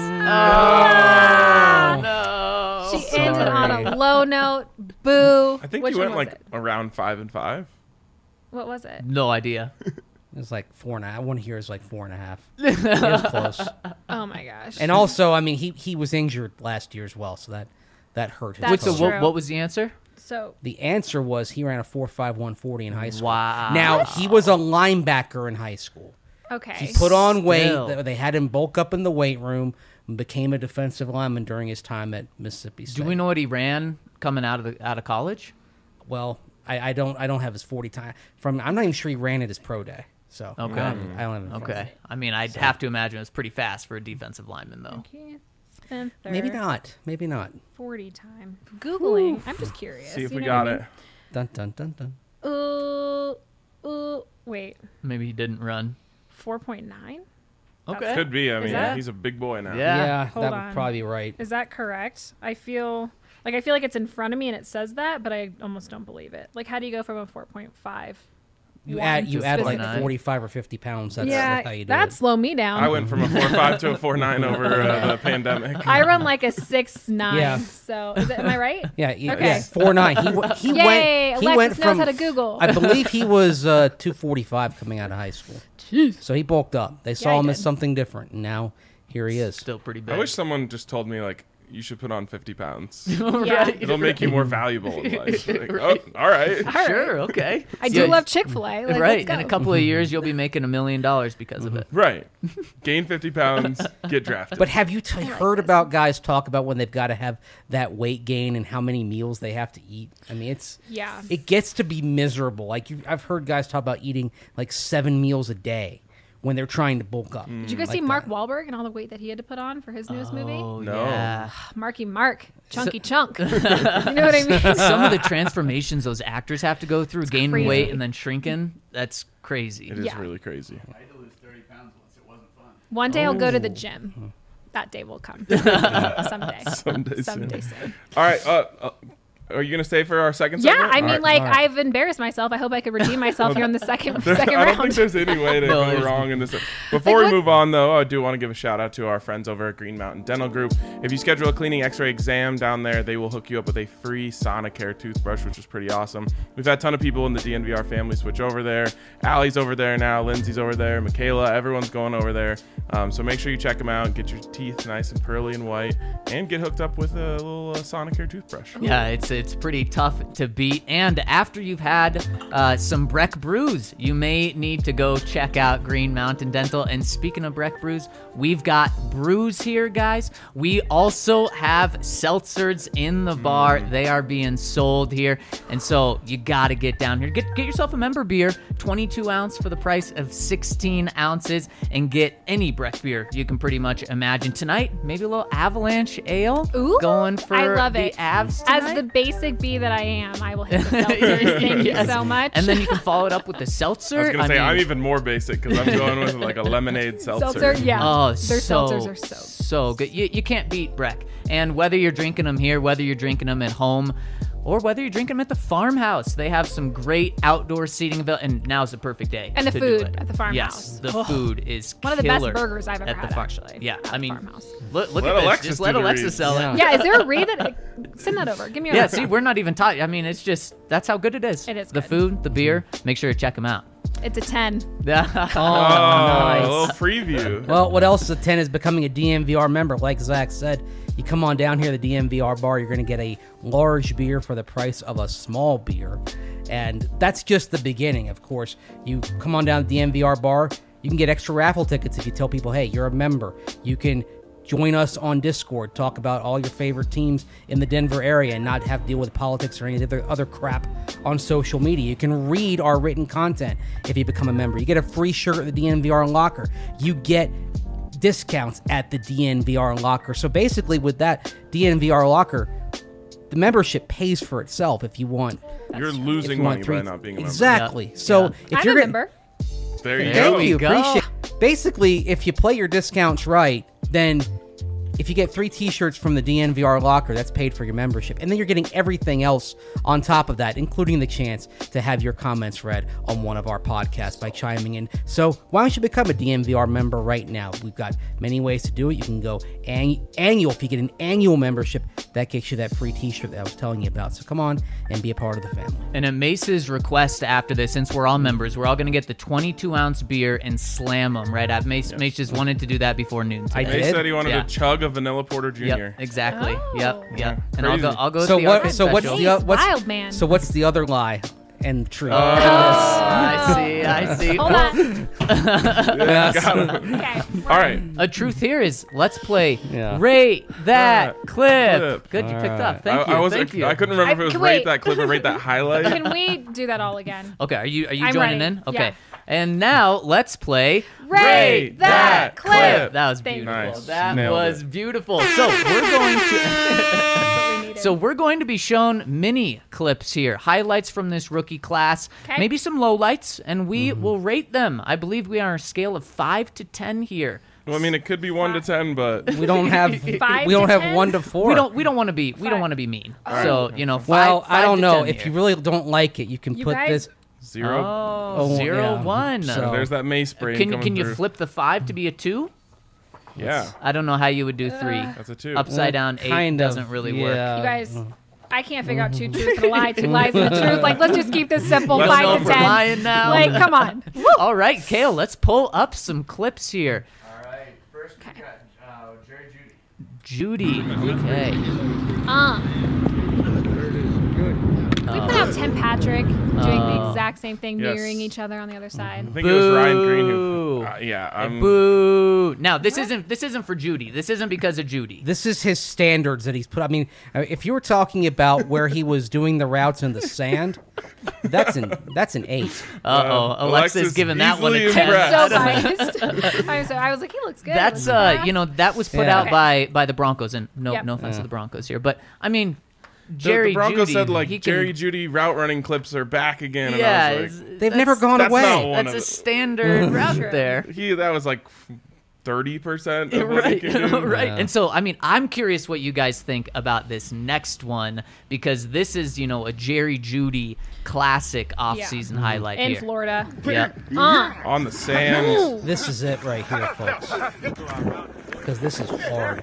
Ah! Oh, no. She ended on a low note. Boo. I think Which you went one was like it? around five and five. What was it? No idea. It was like four and a half. One here is like four and a half. It was close. Oh my gosh. And also, I mean, he, he was injured last year as well, so that, that hurt his That's Wait, so cause. true. what, what was the answer? so The answer was he ran a four five one forty in high school. Wow. Now, he was a linebacker in high school. okay. He put on weight. Still. They- They had him bulk up in the weight room and became a defensive lineman during his time at Mississippi State. Do we know what he ran coming out of the out of college? Well, I, I don't I don't have his forty time. From I'm not even sure he ran at his pro day. So Okay. I don't, I don't have it in front of Okay. me. I mean, I'd have to imagine it was pretty fast for a defensive lineman, though. Keith Spencer, Maybe not. Maybe not. forty time. Googling. I'm just curious. See if you we know got what I it. Dun dun dun dun. mean? Uh, uh, wait. Maybe he didn't run. four point nine? Okay. Could be. I mean, that- he's a big boy now. Yeah. Yeah, Hold that on. would probably be right. Is that correct? I feel like I feel like it's in front of me and it says that, but I almost don't believe it. Like, how do you go from a four point five? You add you add like specific. forty-five or fifty pounds. That's, yeah, that's how you do that'd it. slow me down. I went from a four five to a four nine over uh, the pandemic. I run like a six nine. Yeah. So is it? Am I right? Yeah, he, Okay. yeah, four nine. He w- he Yay! went. He Alexis went knows from. how to Google. I believe he was uh, two forty-five coming out of high school. So he bulked up. They saw he him as did. something different, and now here he is. Still pretty big. I wish someone just told me like you should put on fifty pounds. Yeah. It'll make you more valuable in life. Like, Right. Oh, all right. All right. Sure, okay. I do Yeah, love Chick Fil A. Like, right. Let's go. In a couple of years, you'll be making a million dollars because of it. Right. Gain fifty pounds, get drafted. But have you t- heard about guys talk about when they've got to have that weight gain and how many meals they have to eat? I mean, it's Yeah. it gets to be miserable. Like you, I've heard guys talk about eating like seven meals a day when they're trying to bulk up. Did you guys like see Mark that. Wahlberg and all the weight that he had to put on for his newest movie? Oh, No. yeah. Marky Mark, Chunky Chunk. You know what I mean? Some of the transformations those actors have to go through, gaining crazy. weight and then shrinking, that's crazy. it is Yeah. really crazy. I had to lose thirty pounds once. It wasn't fun. One day I'll go to the Oh. gym. That day will come. Someday. Someday soon. Someday soon. All right. Uh, uh, are you gonna stay for our second? Yeah, segment? I All mean, right. like, all right. I've embarrassed myself. I hope I could redeem myself here on the second There- second I don't round. think there's any way to No, go there's- wrong in this. Before Like, we what- move on, though, I do want to give a shout out to our friends over at Green Mountain Dental Group. If you schedule a cleaning X-ray exam down there, they will hook you up with a free Sonicare toothbrush, which is pretty awesome. We've had a ton of people in the D N V R family switch over there. Allie's over there now. Lindsay's over there. Michaela, everyone's going over there. Um, so make sure you check them out. Get your teeth nice and pearly and white, and get hooked up with a little uh, Sonicare toothbrush. Yeah, it's it's pretty tough to beat. And after you've had uh, some Breck brews, you may need to go check out Green Mountain Dental. And speaking of Breck brews, we've got brews here, guys. We also have seltzers in the bar. They are being sold here, and so you got to get down here. Get get yourself a member beer, twenty-two ounce for the price of sixteen ounces, and get any Breck beer you can pretty much imagine. Tonight, maybe a little Avalanche Ale. Ooh, going for I love the it. Avs As tonight. the basic bee that I am, I will hit the seltzers. Thank Yes. you so much. And then you can follow it up with the seltzer. I was gonna say mean, I'm even more basic because I'm going with like a lemonade seltzer. seltzer, yeah. Oh, Their so, seltzers are so. so good. You, you can't beat Breck. And whether you're drinking them here, whether you're drinking them at home, or whether you're drinking them at the farmhouse, they have some great outdoor seating available. And now's the perfect day. And the to do food it. at the farmhouse. Yes, the Oh. food is One of the best killer burgers I've ever at the had, farm- actually, Yeah, at I the mean, farmhouse. look, look Let at Alexis this. Just do let the Alexis read. sell Yeah. it. Yeah, is there a read that? Send that over. Give me a Yeah, read. see, we're not even talking. I mean, it's just that's how good it is. It is the good. food, the beer. Make sure to check them out. It's a ten. Oh, nice. a little preview. Well, what else is a ten is becoming a D M V R member. Like Zach said, you come on down here to the D M V R bar, you're going to get a large beer for the price of a small beer. And that's just the beginning, of course. You come on down to the D M V R bar, You can get extra raffle tickets if you tell people, hey, you're a member. You can join us on Discord, talk about all your favorite teams in the Denver area and not have to deal with politics or any other, other crap on social media. You can read our written content if you become a member. You get a free shirt at the D N V R Locker. You get discounts at the D N V R Locker. So basically with that D N V R Locker, the membership pays for itself if you want. You're if losing you want money three, by not being a member. Exactly. Yeah. So Yeah. if I'm you're a gonna- member. There you Thank go. you. go. Appreciate. Basically, if you play your discounts right, then if you get three T-shirts from the D N V R Locker, that's paid for your membership, and then you're getting everything else on top of that, including the chance to have your comments read on one of our podcasts by chiming in. So why don't you become a D N V R member right now? We've got many ways to do it. You can go an- annual. If you get an annual membership, that gets you that free T-shirt that I was telling you about. So come on and be a part of the family. And at Mace's request after this, since we're all members, we're all going to get the twenty-two ounce beer and slam them right at Mace. Mace just wanted to do that before noon I today. They did? said he wanted Yeah. a chug of vanilla porter Yep, junior. exactly. Oh. Yep, yep. Yeah, And I'll go. crazy. I'll go with So the what? Arcade So what's special. the o- what's Wild man. So what's the other lie and truth? Oh, I see. I see. Hold on. Yeah, got him. Okay. All right. A truth here is let's play Yeah. rate that Uh, clip. clip. Good, you picked Alright. up. Thank I, you. I was Thank you. I couldn't remember if I- it was can rate wait. that clip or rate that highlight. Can we do that all again? Okay, are you are you I'm joining ready. in? Okay. Yeah. And now let's play Rate that clip. That was Thank you. beautiful. Nice. That Nailed was it. beautiful. So we're going to That's what we needed. So we're going to be shown mini clips here, highlights from this rookie class, 'Kay. maybe some lowlights, and we will rate them. I believe we are on a scale of five to ten here. Well, I mean, it could be one to ten, but We don't have Five we don't to have ten? one to four. We don't we don't want to be we don't Five. want to be mean. So you know, five, Well, five I don't to know. ten If here. you really don't like it, you can You put guys- this. zero. oh, Oh, zero yeah. one. So- There's that mace brain Can coming can you through. flip the five to be a two? Yeah, I don't know how you would do three. that's a two. Upside down eight Kind of, doesn't really work. yeah. You guys, I can't figure out two truths and a lie, two lies and a truth. Like, let's just keep this simple. Let's Don't know Five if to we're ten. lying now. Like, come on. All right, Kale, let's pull up some clips here. All right. First, we got uh, Jerry Judy. Judy. Okay. Uh. We put out Tim Patrick doing the Oh. exact same thing, Yes. mirroring each other on the other side. I think it was Ryan Green who. Boo. Uh, yeah, I'm. Boo. Now this isn't this isn't for Judy. This isn't because of Judy. This is his standards that he's put. I mean, uh, if you were talking about where he was doing the routes in the sand, that's an that's an eight. Uh oh, Uh, Alexa's Alexis giving that one a easily ten. impressed. So biased. I was, I was like, he looks good. That's Looks uh, fast. you know, that was put Yeah. out Okay. by by the Broncos, and no Yep. no offense Yeah. to the Broncos here, but I mean, The, Jerry the Broncos Judy, said like he can- Jerry Judy route running clips are back again, and yeah, I was it's- like, They've that's- never gone that's away. not one That's of a it. standard route True. there. he that was like thirty percent of what he Right, can do. right. Yeah. And so, I mean, I'm curious what you guys think about this next one because this is, you know, a Jerry Judy classic off-season highlight in here. Florida. Yeah. Uh. On the sand. Ooh. This is it right here, folks. Because this is hard.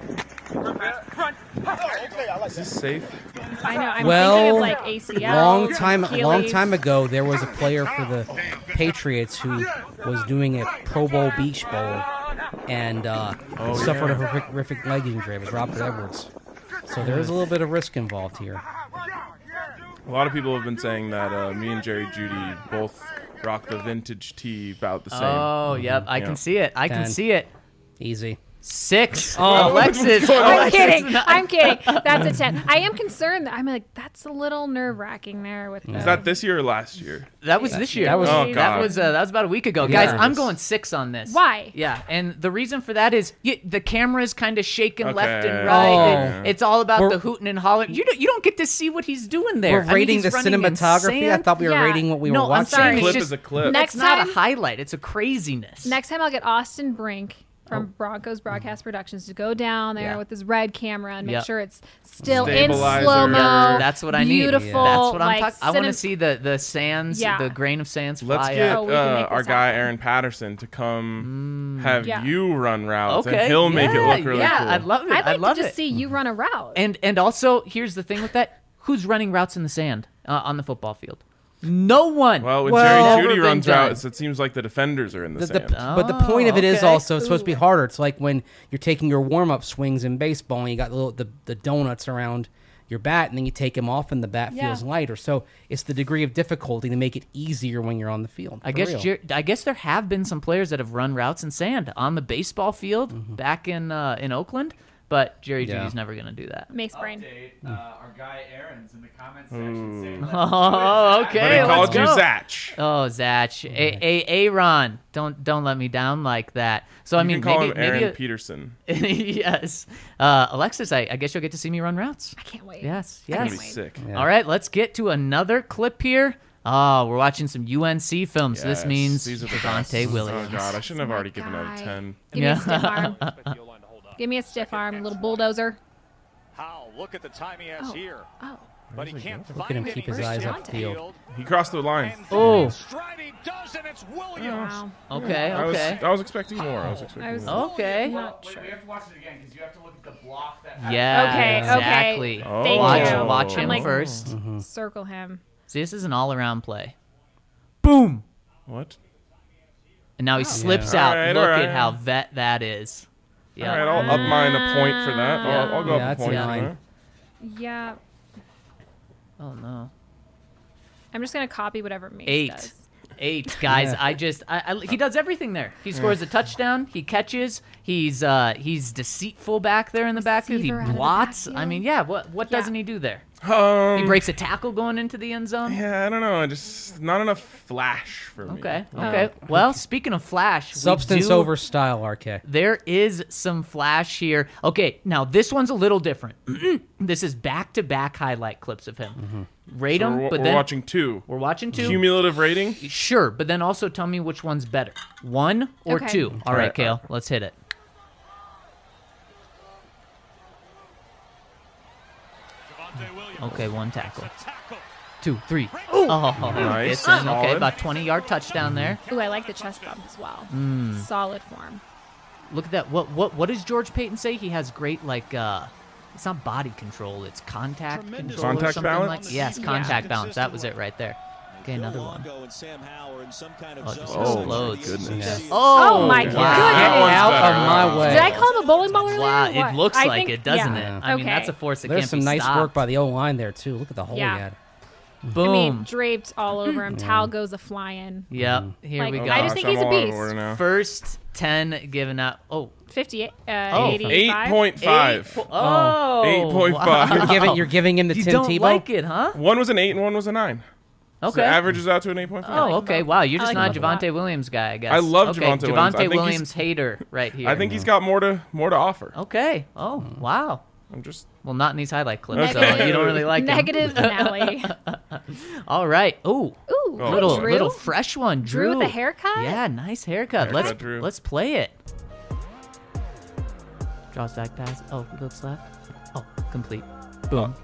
Is this safe? I know. I'm Well, thinking of like A C L. long time, long Achilles. time ago, there was a player for the Patriots who was doing a Pro Bowl Beach Bowl and uh, Oh, suffered yeah. a horrific, horrific leg injury. It was Robert Edwards. So there is a little bit of risk involved here. A lot of people have been saying that uh, me and Jerry Judy both rock the vintage tee about the same. Oh, yep. I Yeah. can see it. I can Ten. see it. Easy. Six. Oh. Alexis. I'm Alexis kidding. not- I'm kidding. That's a ten. I am concerned. That I'm like, that's a little nerve wracking there with the. Is that this year or last year? That was this year. that was- Oh, that God. was uh, that was about a week ago, Yeah. guys. I'm going six on this. Why? Yeah, and the reason for that is y the camera's kind of shaking left and Okay. right. Oh. It- it's all about We're- the hooting and hollering. You don't you don't get to see what he's doing there. We're I mean, rating he's the running in cinematography. I sand. thought we were Yeah. rating what we No, were I'm watching. sorry. Clip It's is just, a clip. Next It's not time- a highlight. It's a craziness. Next time I'll get Austin Brink from Oh. Broncos Broadcast Productions to go down there Yeah. with his red camera and make Yep. sure it's still in Stabilizer. slow mo. Yeah, That's what I need. Beautiful. That's what I'm like, talking. I want to cinem- see the the sands, Yeah. the grain of sands fly Let's get up. Oh, we can uh, make our this guy happen. Aaron Patterson to come have Yeah. you run routes, Okay, and he'll make it yeah, look really yeah, cool. I'd love it. I'd like love to just it. see you run a route. And and also here's the thing with that: who's running routes in the sand uh, on the football field? No one. Well, when Well- Jerry Never Judy been runs done. routes, it seems like the defenders are in the, The- the- sand. but the point of it is okay. also it's supposed to be harder. It's like when you're taking your warm up swings in baseball and you got the, little, the the donuts around your bat, and then you take him off, and the bat Yeah. feels lighter. So it's the degree of difficulty to make it easier when you're on the field. I for guess real. Jer- I guess there have been some players that have run routes in sand on the baseball field Mm-hmm. back in uh, in Oakland, but Jerry Yeah. Judy's never gonna do that. Mace brain. Update, uh, our guy Aaron's in the comment section saying, let's Oh, do it, Zach. But okay. he let's called you go. Zach. Oh, Zach, a- a- Aaron, don't don't let me down like that. So I You mean, can call maybe him Aaron maybe Peterson. a- yes, uh, Alexis, I, I guess you'll get to see me run routes. I can't wait. Yes, I yes. can't That'd be wait. sick. Yeah. All right, let's get to another clip here. Oh, we're watching some U N C films. This Yes, means these are the Javonte best. Williams. Oh god, I shouldn't have My already given out guy. a ten. Give me Yeah. a stiff arm. Give me a stiff arm, little bulldozer. How? Look at the time he has Oh. here. Oh, But he can't Look at find him any keep his distance eyes downfield. He crossed the line. And Oh. then stride he does, and it's Williams. wow. Okay, I was okay. I was expecting more. I was expecting I was- more. Okay. Not Wait, sure. we have to watch it again because you have to look at the block that Yeah, Okay, exactly. okay. Oh. Thank Watch, you. watch I'm him like, first. Circle him. See, this is an all-around play. Boom! What? And now he slips Yeah. out. All right, Look all right. at how vet that is. All Yeah. right, I'll up mine a point for that. Yeah. I'll, I'll go Yeah, up a that's point for fine. that. Yeah. Oh no. I'm just gonna copy whatever Mace Eight. does. Eight guys. Yeah. I just I, I, he does everything there. He scores a touchdown. He catches. He's uh he's deceitful back there in the backfield. He Receiver out of the blots. I backfield. mean, yeah. What what Yeah. doesn't he do there? Um, He breaks a tackle going into the end zone. Yeah, I don't know. I just not enough flash for me. Okay. Okay. Well, speaking of flash, we Substance do- over style, R K. There is some flash here. Okay, now this one's a little different. This is back-to-back highlight clips of him. Rate So them, we're, but we're then watching two. we're watching two. Cumulative rating. Sure, but then also tell me which one's better, one or Okay. two. All All right, right. Kale, let's hit it. Okay, one tackle. Two, three. Oh, Nice. it's in. Okay, Solid. about twenty-yard touchdown there. Ooh, I like the chest bump as well. Mm. Solid form. Look at that. What what what does George Payton say? He has great like uh it's not body control, it's contact control or Contact something balance? like yes, Yeah. contact balance. That was it right there. Okay, another one. And Sam Howard in some kind of Oh, it just zone. explodes. goodness. Oh, Oh my wow. goodness. That one's Out better. of my way. Did I call him a bowling ball earlier? Wow, or what? it looks I like think- it, doesn't yeah. it? I mean, Okay. that's a force that There's can't some be nice stopped. work by the O line there too. Look at the hole Yeah. he had. Boom. I mean, draped all over him. Towel goes a flying. Yep. Here Like, we Oh, go. I just gosh, think he's I'm a all out of beast. order now. First ten given out. Oh, fifty-eight, uh, Oh. eighty-five. Eight point five. eight po- oh, Eight point five. wow. You're giving you're giving him the You Tim don't Tebow. like it, huh? One was an eight and one was a nine. So Okay. the average is out to an eight point five. Oh, like okay. them Wow, you're I just like not a them a lot. Javonte Williams guy, I guess. I love okay, Javonte Williams. I think he's- Williams hater right here. I think he's got more to more to offer. Okay. Oh, wow. I'm just Well, not in these highlight clips, so Okay. you don't really like him. Negative finale. All right. Ooh, Ooh, Oh, little Drew. little fresh one, Drew. Drew with a haircut? Yeah, nice haircut. Haircut, let's Drew. let's play it. Draws back pass. Oh, he looks left. Oh, complete. Boom.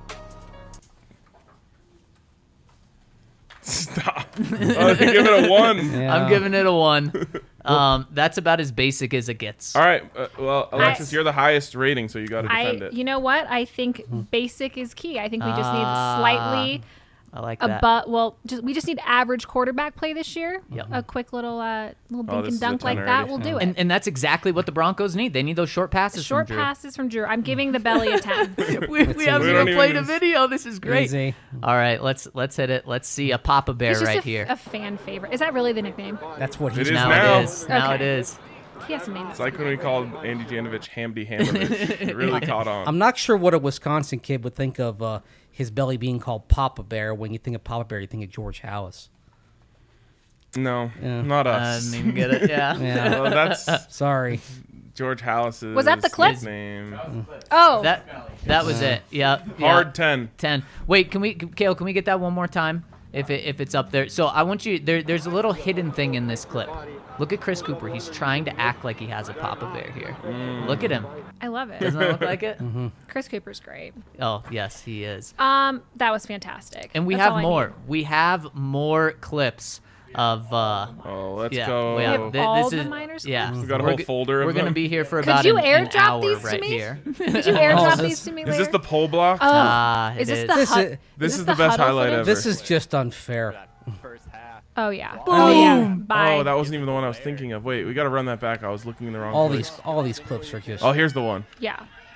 stop. Oh, you give it a one. Yeah. I'm giving it a one. Um, that's about as basic as it gets. All right. Uh, well, Alexis, I- you're the highest rating, so you got to defend I, it. you know what? I think basic is key. I think we just need Ah, slightly I like that. above. Well, just we just need average quarterback play this year. Yep. A quick little uh, little Oh, dink this is and a dunk ten like that already. will do it. And, and that's exactly what the Broncos need. They need those short passes Short from Drew. passes from Drew. I'm giving the belly a ten. we we haven't We even don't even played a use- video. This is great. Easy. All right, let's let's hit it. Let's see a Papa Bear He's just right a, here. a fan favorite. Is that really the nickname? That's what It he's is now, now. it is. Now it Okay. is. He has a name. It's like when we called Andy Janovich Hamdy Hamovich. It really caught on. I'm not sure what a Wisconsin kid would think of uh, his belly being called Papa Bear. When you think of Papa Bear, you think of George Hallis. no, Yeah. not I us. didn't even get it. Yeah. Yeah. Well, that's Sorry. George Hallis's Was that the clip? name. Oh, That that was it. Yeah. yeah. Hard ten. ten. Wait, can we, Kale? Can we get that one more time? If it, if it's up there. So I want you. There there's a little hidden thing in this clip. Look at Chris Cooper. He's trying to act like he has a Papa Bear here. Look at him. I love it. Doesn't that look like it? Chris Cooper's great. Oh yes, he is. Um, that was fantastic. And we That's have all I more. need. We have more clips of. uh Oh, let's Yeah, go. we have, have thi- all this the is, minors yeah. clips? We got a We're whole g- folder of We're gonna them. be here for Could about you an, an airdrop hour these to right me? here. Did you airdrop is this- these to me Is later? this the poll block? Oh, Ah, is it this is. the This hud- is- This this is the the best huddle highlight footage? ever. This is just unfair. First half. Oh yeah. Boom. Oh yeah. Bye. Oh, that wasn't even the one I was thinking of. Wait, we got to run that back. I was looking in the wrong All place. these all these clips are just. Oh, here's the one. Yeah.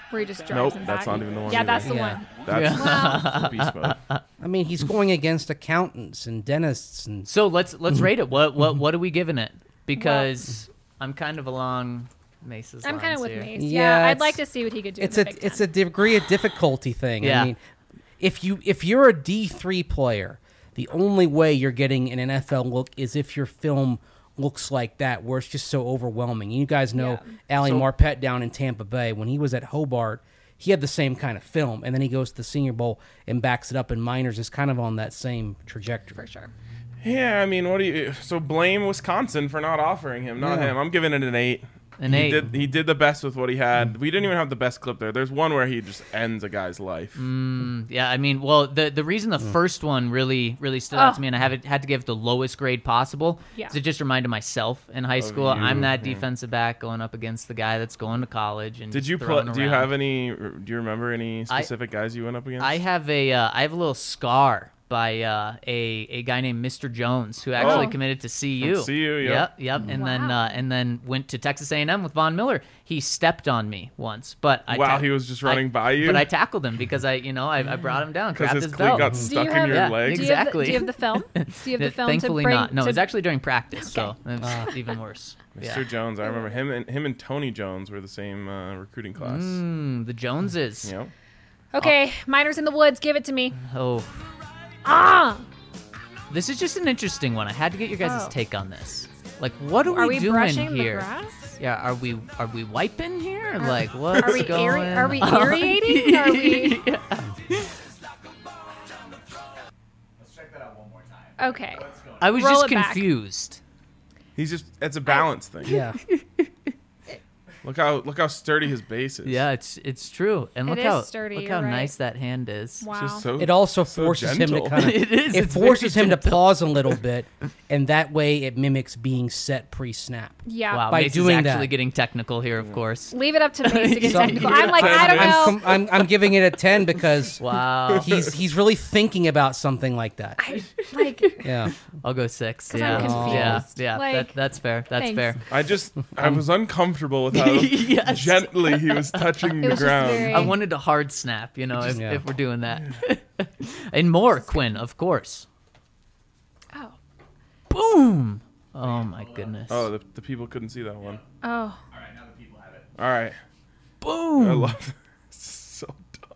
Where he just drives Nope, him that's back. not even the one Yeah, either. that's the Yeah. one. That's Well, beast mode. I mean, he's going against accountants and dentists and So let's let's rate it. What what what are we giving it? Because I'm kind of along Mace's I'm kind of lines with here. Mace. Yeah, Yeah, I'd it's- like to see what he could do. it's in a the Big it's Ten. a degree of difficulty thing. Yeah. I mean, if you if you're a D three player, the only way you're getting an N F L look is if your film looks like that, where it's just so overwhelming. You guys know Yeah. Ali So- Marpet down in Tampa Bay when he was at Hobart. He had the same kind of film, and then he goes to the Senior Bowl and backs it up in minors. Is kind of on that same trajectory. for sure. Yeah, I mean, what do you? So blame Wisconsin for not offering him, not Yeah. him. I'm giving it an eight. An he eight. Did, he did the best with what he had. We didn't even have the best clip there. There's one where he just ends a guy's life. Yeah, I mean, well, the the reason the first one really really stood out Oh. to me, and I have it, had to give it the lowest grade possible, Yeah. is it just reminded myself in high school, you, I'm that yeah. defensive back going up against the guy that's going to college. And Did just you play? throwing Do you around. have any? Do you remember any I- specific guys you went up against? I have a uh, I have a little scar by uh, a a guy named Mister Jones who actually Oh. committed to C U. From C U, yep. Yep, yep. And then Wow. uh, and then went to Texas A and M with Von Miller. He stepped on me once, but I Wow, ta- he was just I- running by you? But I tackled him because I you know I, I brought him down, Because grabbed his his cleat belt. got Do stuck you in have, your Yeah, leg. Do you, have the, Exactly. do you have the film? Do you have the film Thankfully to bring? not. No, to, it was actually during practice, so Okay. it's even worse. Mister Yeah. Jones, I remember him and him and Tony Jones were the same uh, recruiting class. Mm, the Joneses. Yep. Okay, Miners in the Woods. Give it to me. Oh, Ah, this is just an interesting one. I had to get your guys' Oh. take on this. Like, what are, are we, we doing brushing here? the grass? Yeah, are we are we wiping here? Like, what's Are we going aer- are we on? aerating? Are we? Let's check that out one more time. Okay. I was Roll just it back. confused. He's just it's a balance thing. Yeah. Look how look how sturdy his base is. Yeah, it's it's true. And It look is how sturdy, look you're how right. nice that hand is. It's Wow. just so It also so forces him to gentle. kind of It is, it it's forces very him to gentle. pause a little bit, and that way it mimics being set pre-snap. Yeah. Wow, By Mace doing is actually that. getting technical here, of course. Leave it up to Mace to get So- technical. I'm like, I don't I'm, know. com- I'm I'm giving it a ten because Wow. he's he's really thinking about something like that. I, like, Yeah. I'll go six. 'Cause Yeah. I'm Yeah, confused. yeah. Like, that, that's fair. That's thanks. fair. I just I was uncomfortable with how Yes. gently he was touching It the was just ground. very- I wanted to hard snap, you know, if, Yeah. if we're doing that. And more, Quinn, of course. oh, Boom! Oh my goodness. Oh, the, the people couldn't see that one. oh, All right, now the people have it. All right, I Boom! love so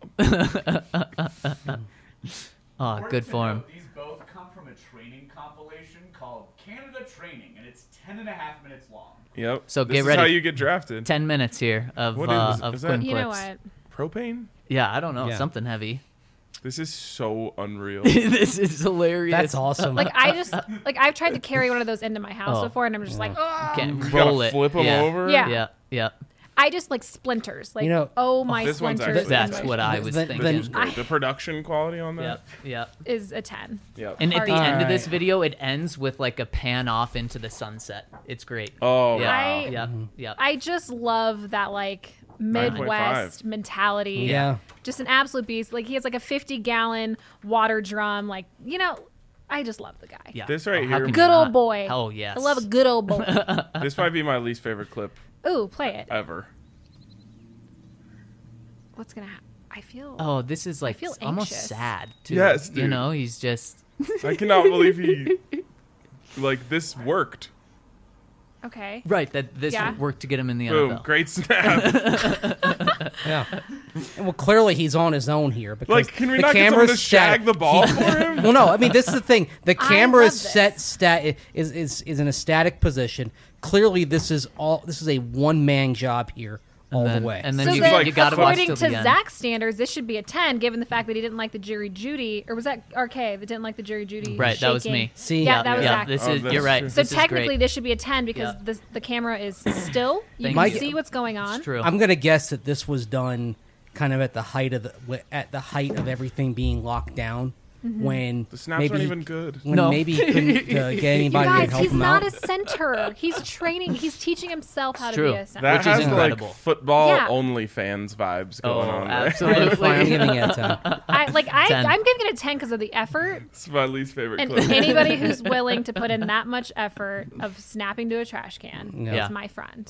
dumb. Oh, Important good to for him. note, These both come from a training compilation called Canada Training, and it's ten and a half minutes long. Yep. So this get is ready. how you get drafted. Ten minutes here of What uh, is- of is that- Quinn you know clips. what? Propane. Yeah, I don't know, Yeah. something heavy. This is so unreal. This is hilarious. That's awesome. Like I just like I've tried to carry one of those into my house Oh. before, and I'm just like, oh. Can't You roll gotta it. flip him yeah. over. Yeah. Yeah, yeah. I just like splinters. Like, You know- oh my This one's splinters. actually- That's is- what I was Then- thinking. then- This is great. The production quality on that. Yep, yep. is a ten. Yep. And at the Alright. end of this Alright. video, it ends with like a pan off into the sunset. It's great. Oh yeah, wow. I- yep, yep. I just love that like nine point five. Midwest mentality. Yeah. Just an absolute beast. Like he has like a fifty gallon water drum. Like, you know, I just love the guy. yeah. This right how here- can you Good old not? boy. Oh yes. I love a good old boy. This might be my least favorite clip Ooh, play it. ever. What's gonna happen? I feel. Oh, this is like feel almost anxious. sad too. Yes, You dude. know, he's just I cannot believe he like this worked. Okay. right that this Yeah. worked to get him in the Boom, N F L. great snap. Yeah. And well, clearly he's on his own here because Like, can we the not get someone to camera's shag set- the ball for him? Well, no. I mean, this is the thing. The I camera love is this. set stat is, is is in a static position. Clearly, this is all. This is a one man job here all then- the way. and then So you, then, like you gotta watch according till to the end. Zach's standards, this should be a ten, given the fact that he didn't like the Jury Judy, or was that R K that didn't like the Jury Judy? Right, that was shaking? me. See, Yeah, yeah, that was yeah, Zach. this Oh, is that's you're right. true. So This is technically, great. this should be a ten because Yeah. the the camera is still. You Thank can you. see what's going on. It's true. I'm gonna guess that this was done kind of at the height of the at the height of everything being locked down. Mm-hmm. When The snaps maybe aren't he- even good. when No. maybe he couldn't uh, get You anybody to guys, help he's him not out. a center. He's training. He's teaching himself how to true. be a center. That Which is has incredible. like football Yeah. only fans vibes Oh, going on there. absolutely. Fine, I'm giving it a ten. I like. I, ten. I'm giving it a ten because of the effort. It's my least favorite And clip. anybody who's willing to put in that much effort of snapping to a trash can Yeah. is my friend. Yeah,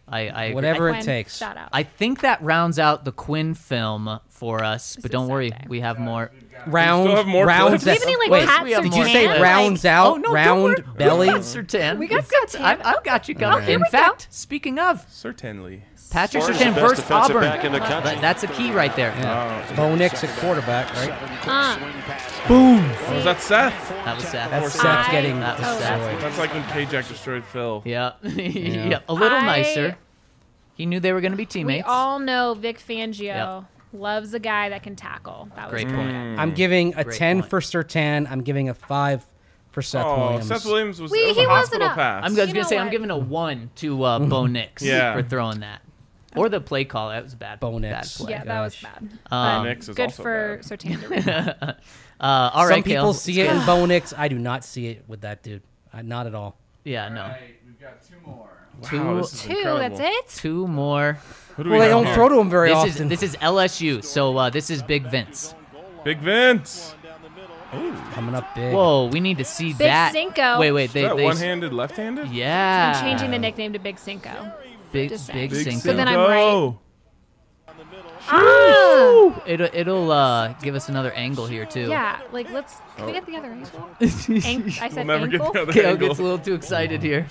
I, I agree. Whatever I, it Quinn, takes. Shout out. I think that rounds out the Quinn film for us, but is don't worry, Sunday. we have more. Round, still have more rounds. clips. Do we have any, like, Wait, Pat we have did you more say clips. rounds Like- out, Oh, no, don't round worry. belly? We got Sertan. We got We've Surtain. I, I've got you covered. here In we go. fact, speaking of, Certainly. Patrick Far as the Sertan best versus defensive Auburn. back in the country. That- that's a key right there. Oh, Bo Nix at quarterback, right? Uh, Boom. was that Seth? That was Seth. That's Or Seth I- getting That was oh, Seth. that's That's like when K-Jack destroyed Phil. Yeah. yeah, a little I- nicer. He knew they were going to be we teammates. all know Vic Fangio Yep. loves a guy that can tackle. That was Great pretty point. good. I'm giving a Great ten point. for Sertan. I'm giving a five for Seth Oh, Williams. Seth Williams was, We- that was he a wasn't hospital a- pass. I'm You going to know say I'm what? giving a one to uh, Bo Nix Yeah. for throwing that. Or the play call. That was a bad. Bo bad Nix. play. Yeah, that was gosh. bad. Um, But Nix is good also for bad. Sertan to read that. Uh, all right, Some people Kale. see it in Bo Nix. I do not see it with that dude. I, not at all. Yeah, no. Right, we've got two more. Two- Wow, this is Two, incredible. that's it? Two more. Who do Well, we they have don't here? throw to him very This often. is this is L S U, so uh, this is Big Vince. Big Vince. Coming up big. Whoa, we need to see Big that. Cinco. Wait, wait, Is they, that they one-handed, left-handed? yeah. I'm changing the nickname to Big Cinco. Big Just saying. Big Big Cinco. So then I'm Cinco. Ah! It'll it'll uh, give us another angle here too. Yeah, like let's. Can we get the other angle? Ank- I said We'll never ankle. get the other Kale angle. gets a little too excited here.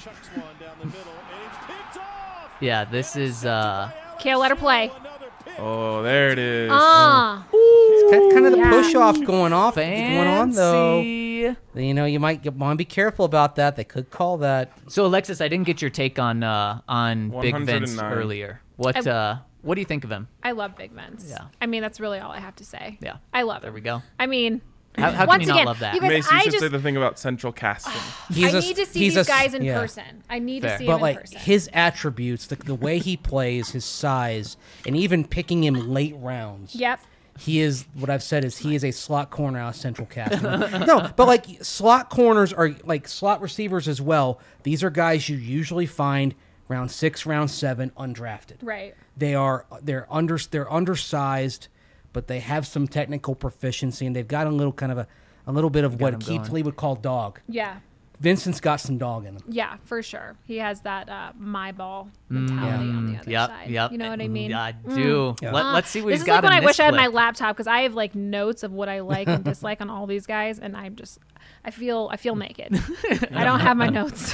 Yeah, this is uh Kale, let her play. Oh, there it is. Ah, Kind kind of the Yeah. push off going off fancy. going on though. You know, you might want to be careful about that. They could call that. So Alexis, I didn't get your take on uh on Big Vince one oh nine. earlier. What I- uh what do you think of him? I love Big Vince. Yeah. I mean, that's really all I have to say. Yeah. I love There him. we go. I mean, How, how can once you not again, love that? you guys- Mace, you I should just- say the thing about central casting. He's I a- need to see he's these a- guys in yeah. person. I need Fair. to see But them like in person. his attributes, the, the way he plays, his size, and even picking him late rounds. Yep. He is what I've said is he is a slot corner out of central casting. No, but like slot corners are like slot receivers as well. These are guys you usually find round six, round seven, undrafted. Right. They are they're under they're undersized, but they have some technical proficiency and they've got a little kind of a a little bit of Got what 'em Keith going. Lee would call dog. Yeah. Vincent's got some dog in him. Yeah, for sure. He has that uh, my ball mentality on the other Yep, side. yep. You know what I mean? I do. Yeah. Let, Uh, let's see what this he's is got like when in I this wish I had my clip. laptop because I have like notes of what I like and dislike on all these guys, and I'm just, I feel, I feel naked. I don't have my notes.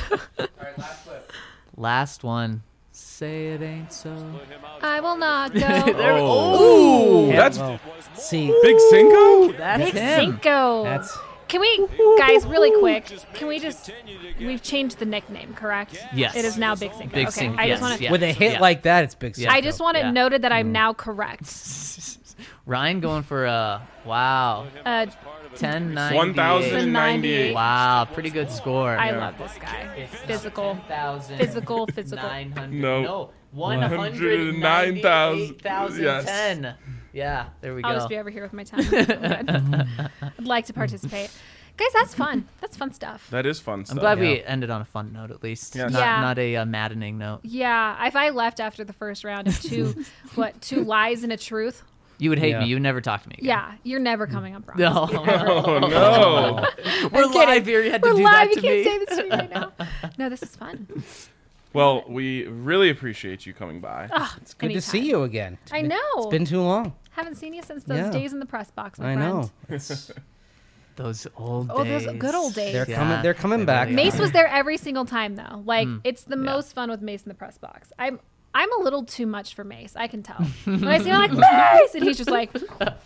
Last one. Say it ain't so. I will not go. Oh, Yeah, that's well, see, Big Cinco? That's Big him. Cinco. that's Can we, guys, really quick? Can we just? We've changed the nickname, correct? Yes. It is now Big Cinco. Big okay. Cinco, I yes, just want to. yeah. with a hit yeah. like that, it's big. Yeah. I just want it Yeah. noted that Mm. I'm now correct. Ryan going for a wow. Uh, ten ninety-eight. one thousand ninety-eight. Wow, pretty good score. I love this guy. Physical. Physical, physical. nine hundred. No. No. one one hundred hundred nine nine thousand Yes. ten. Yeah, there we go. I'll just be over here with my tongue. Good. I'd like to participate. Guys, that's fun. That's fun stuff. That is fun stuff. I'm glad we Yeah. ended on a fun note at least. Yes. Not, Yeah. not a uh, maddening note. Yeah, if I left after the first round of two, what, two lies and a truth? You would hate Yeah. me. You would never talk to me again. Yeah, you're never coming up wrong. No. Oh, no. We're kidding. live here. You had to We're do live. that You to can't me. say this to me right now. No, this is fun. Well, we really appreciate you coming by. Oh, It's good to see you again. It's I been- know. It's been too long. Haven't seen you since those Yeah. days in the press box, my I friend. know. Those old Oh, days. those good old days. They're Yeah, coming. They're coming they back. really Mace are. was there every single time, though. Like, Mm. it's the most fun with Mace in the press box. I'm I'm a little too much for Mace. I can tell. When I see him, I'm like, Mace! And he's just like,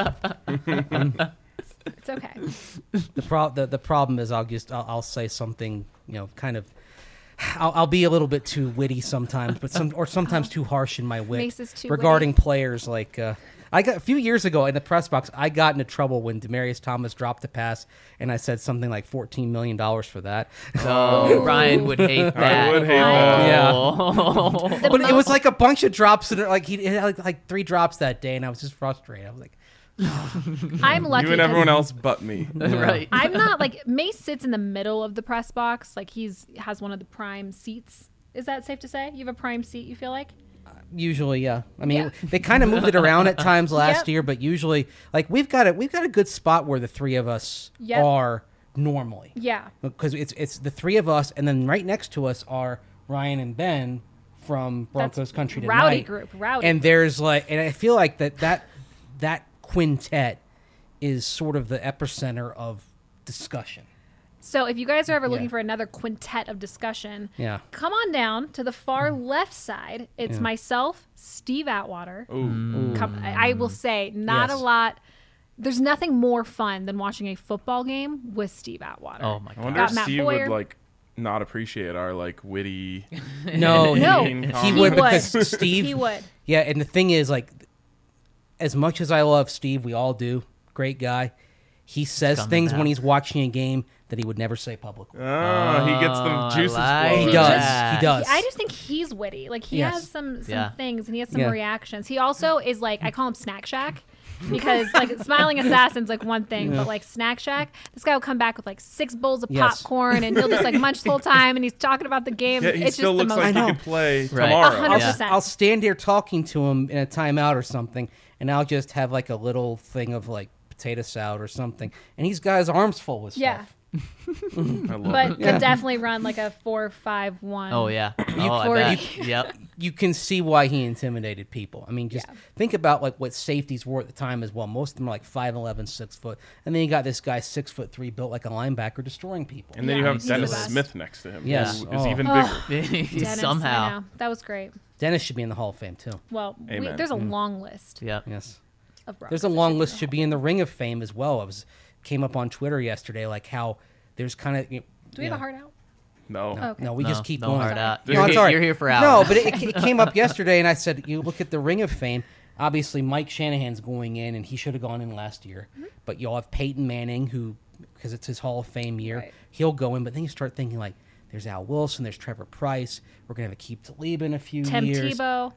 it's okay. The, pro- the, the problem is I'll just I'll, I'll say something, you know, kind of I'll, I'll be a little bit too witty sometimes, but some or sometimes too harsh in my wit Mace is too regarding witty. players. Like uh, I got a few years ago in the press box, I got into trouble when Demarius Thomas dropped the pass, and I said something like fourteen million dollars for that. Oh, Ryan would hate that. would hate that. Yeah. Oh. The But it was most- like a bunch of drops, and like he had like, like three drops that day, and I was just frustrated. I was like, I'm lucky. You and 'cause everyone else but me. Right. I'm not like Mace sits in the middle of the press box. Like he's has one of the prime seats. Is that safe to say? You have a prime seat. You feel like? usually, yeah. I mean, Yeah. they kind of moved it around at times last Yep. year, but usually, like we've got a we've got a good spot where the three of us Yep. are normally. Yeah. Because it's it's the three of us, and then right next to us are Ryan and Ben from Broncos country tonight. rowdy group, rowdy And group. there's like, and I feel like that that that quintet is sort of the epicenter of discussion. So if you guys are ever looking Yeah. for another quintet of discussion, Yeah. come on down to the far left side. It's myself, Steve Atwater. Ooh. Come, I I will say, not Yes. a lot. There's nothing more fun than watching a football game with Steve Atwater. Oh my I god. wonder Got if Matt Steve Boyer. would like not appreciate our like witty. No, No. mean he comments. would He would. because Steve. He would. Yeah, and the thing is, like, as much as I love Steve, we all do. Great guy. He says coming things now. when he's watching a game that he would never say publicly. Oh, he gets Oh, the I juices like flowing. He does. that. He does. I just think he's witty. Like he Yes. has some some Yeah. things and he has some Yeah. reactions. He also is like I call him Snack Shack because like Smiling Assassin's like one thing, but like Snack Shack, this guy will come back with like six bowls of Yes. popcorn and he'll just like munch the whole time and he's talking about the game. Yeah, he it's still just looks the most like he know. could play Right. tomorrow. A hundred I'll, percent. I'll stand here talking to him in a timeout or something, and I'll just have like a little thing of like potato salad or something, and he's got his arms full with stuff. Yeah. I love But it. could definitely run like a four five one. Oh yeah. Oh, I for- bet. Yep. You can see why he intimidated people. I mean, just Yeah. think about like what safeties were at the time as well. Most of them are like five eleven, six foot, and then you got this guy six foot three, built like a linebacker, destroying people. And then Yeah, you have he's the Dennis best. Smith next to him. Yes. Who is Oh. even Oh. bigger. Dennis, Somehow. I know. That was great. Dennis should be in the Hall of Fame too. Well, we, Amen. there's a long list Yep. Yes. of Broncos There's a that long should list be should be in the Ring of Fame as well. I was came up on Twitter yesterday, like how there's kind of. You know, Do we have a heart out? No. Okay. No, we No, just keep no going. hard out. No, You're, it's here, all right. you're here for No, hours. but it, it came up yesterday, and I said, you look at the Ring of Fame. Obviously, Mike Shanahan's going in, and he should have gone in last year. Mm-hmm. But you'll have Peyton Manning, who, because it's his Hall of Fame year, Right. he'll go in. But then you start thinking, like, there's Al Wilson, there's Trevor Price. We're going to have a Keith Tlaib in a few Tim years. Tebow.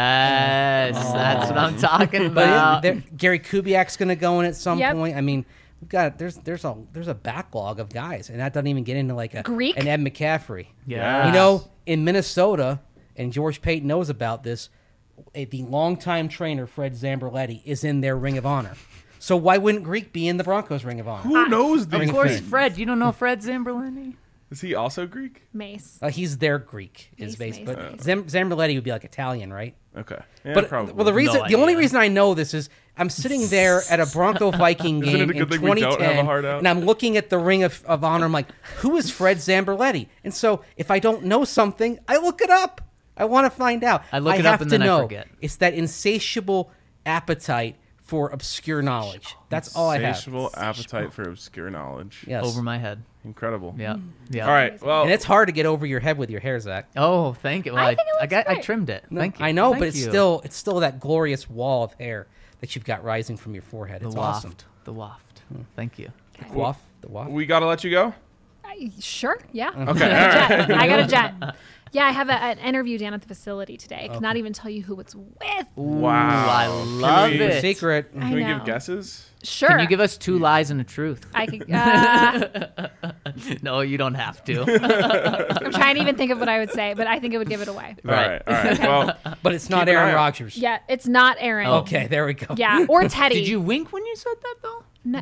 Yes, that's what I'm talking But about. it, there- Gary Kubiak's going to go in at some Yep. point. I mean, we've got there's there's a there's a backlog of guys, and that doesn't even get into like a Greek? an Ed McCaffrey. Yeah. You know, in Minnesota, and George Payton knows about this. A, the longtime trainer Fred Zamberletti is in their Ring of Honor. So why wouldn't Greek be in the Broncos Ring of Honor? Who knows these of course, things? Fred. You don't know Fred Zamberletti? Is he also Greek? Mace. Uh, he's their Greek is He's based, Mace, but Mace. Zam- Zamberletti would be like Italian, right? Okay. Yeah, But probably. well, the reason, No the only idea. reason I know this is I'm sitting there at a Bronco Viking Isn't game it a good in thing we don't have a twenty ten, heart out? and I'm looking at the Ring of, of Honor. I'm like, who is Fred Zamberletti? And so if I don't know something, I look it up. I want to find out. I look it up have and to then I know. forget. It's that insatiable appetite for obscure knowledge. That's all I have. Insatiable appetite for obscure knowledge. Yes. Over my head. Incredible. Yeah. Yeah. All right. Well, And it's hard to get over your head with your hair, Zach. Oh, thank you. Well, I I, think it I, looks got, I great. trimmed it. Thank you. I know, Thank but it's you. still it's still that glorious wall of hair that you've got rising from your forehead. the It's waft. awesome. The waft. Thank you. The waft, the waft. we got to let you go. I, sure. Yeah. Okay. All right. Jet. I got a jet. Yeah, I have a, an interview down at the facility today. I cannot even tell you who it's with. Wow. I love we- it. Secret. I Can we know. give guesses? Sure. Can you give us two lies and a truth? I could. Uh, No, you don't have to. I'm trying to even think of what I would say, but I think it would give it away. Right. All right. All right. Well, But it's not Keep an eye Aaron out. Rodgers. Yeah, it's not Aaron. Okay, there we go. Yeah, or Teddy. Did you wink when you said that, though? No.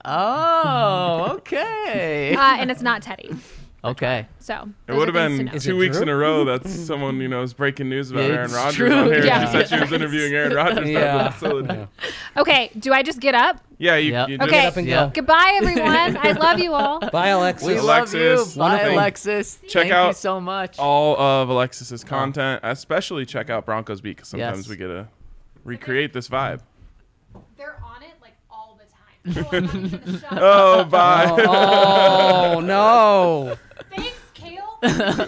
Oh, okay. Uh, and it's not Teddy. Okay. So it those would are have things to been know. Is two it weeks Drew? in a row that someone, you know, is breaking news about Aaron It's Rodgers true. on here. Yeah. She said she was interviewing Aaron Rodgers. Yeah. Yeah. Facility. Okay, do I just get up? Yeah. You, Yep. you just, Okay. up and Yeah. go. Goodbye, everyone. I love you all. Bye, Alexis. We Alexis, love you. Bye, wonderful. Alexis. Check Thank you out so much. all of Alexis's content, especially check out Broncos Beat because sometimes Yes. we get to recreate this vibe. They're on it like all the time. Oh, I'm not even the show. Oh, bye. Oh, oh, no. Thanks, Kale.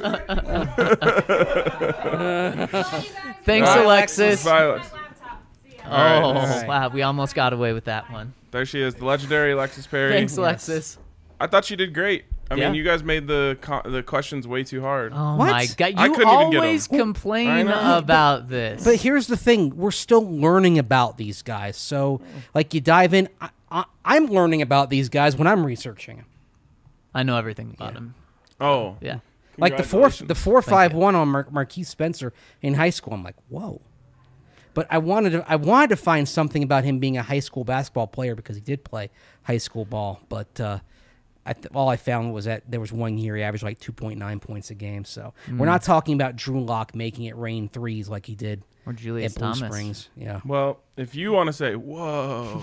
Thanks, Thanks, Bye, Alexis. Bye, Alex. Oh, All right. All right. wow. We almost got away with that one. There she is, the legendary Alexis Perry. Thanks, Alexis. I thought she did great. I Yeah. mean, you guys made the co- the questions way too hard. Oh, What? my God. I You couldn't even get 'em. always I complain know. about this. But here's the thing. We're still learning about these guys. So, like, you dive in. I, I, I'm learning about these guys when I'm researching them. I know everything about him. Oh, Yeah. Like the four, Congratulations. the four five you. one on Mar- Marquise Spencer in high school. I'm like, whoa. But I wanted to, I wanted to find something about him being a high school basketball player because he did play high school ball. But uh, I th- all I found was that there was one year he averaged like two point nine points a game. So we're not talking about Drew Lock making it rain threes like he did Or Julius at Blue Thomas. Springs. Yeah. Well, if you want to say whoa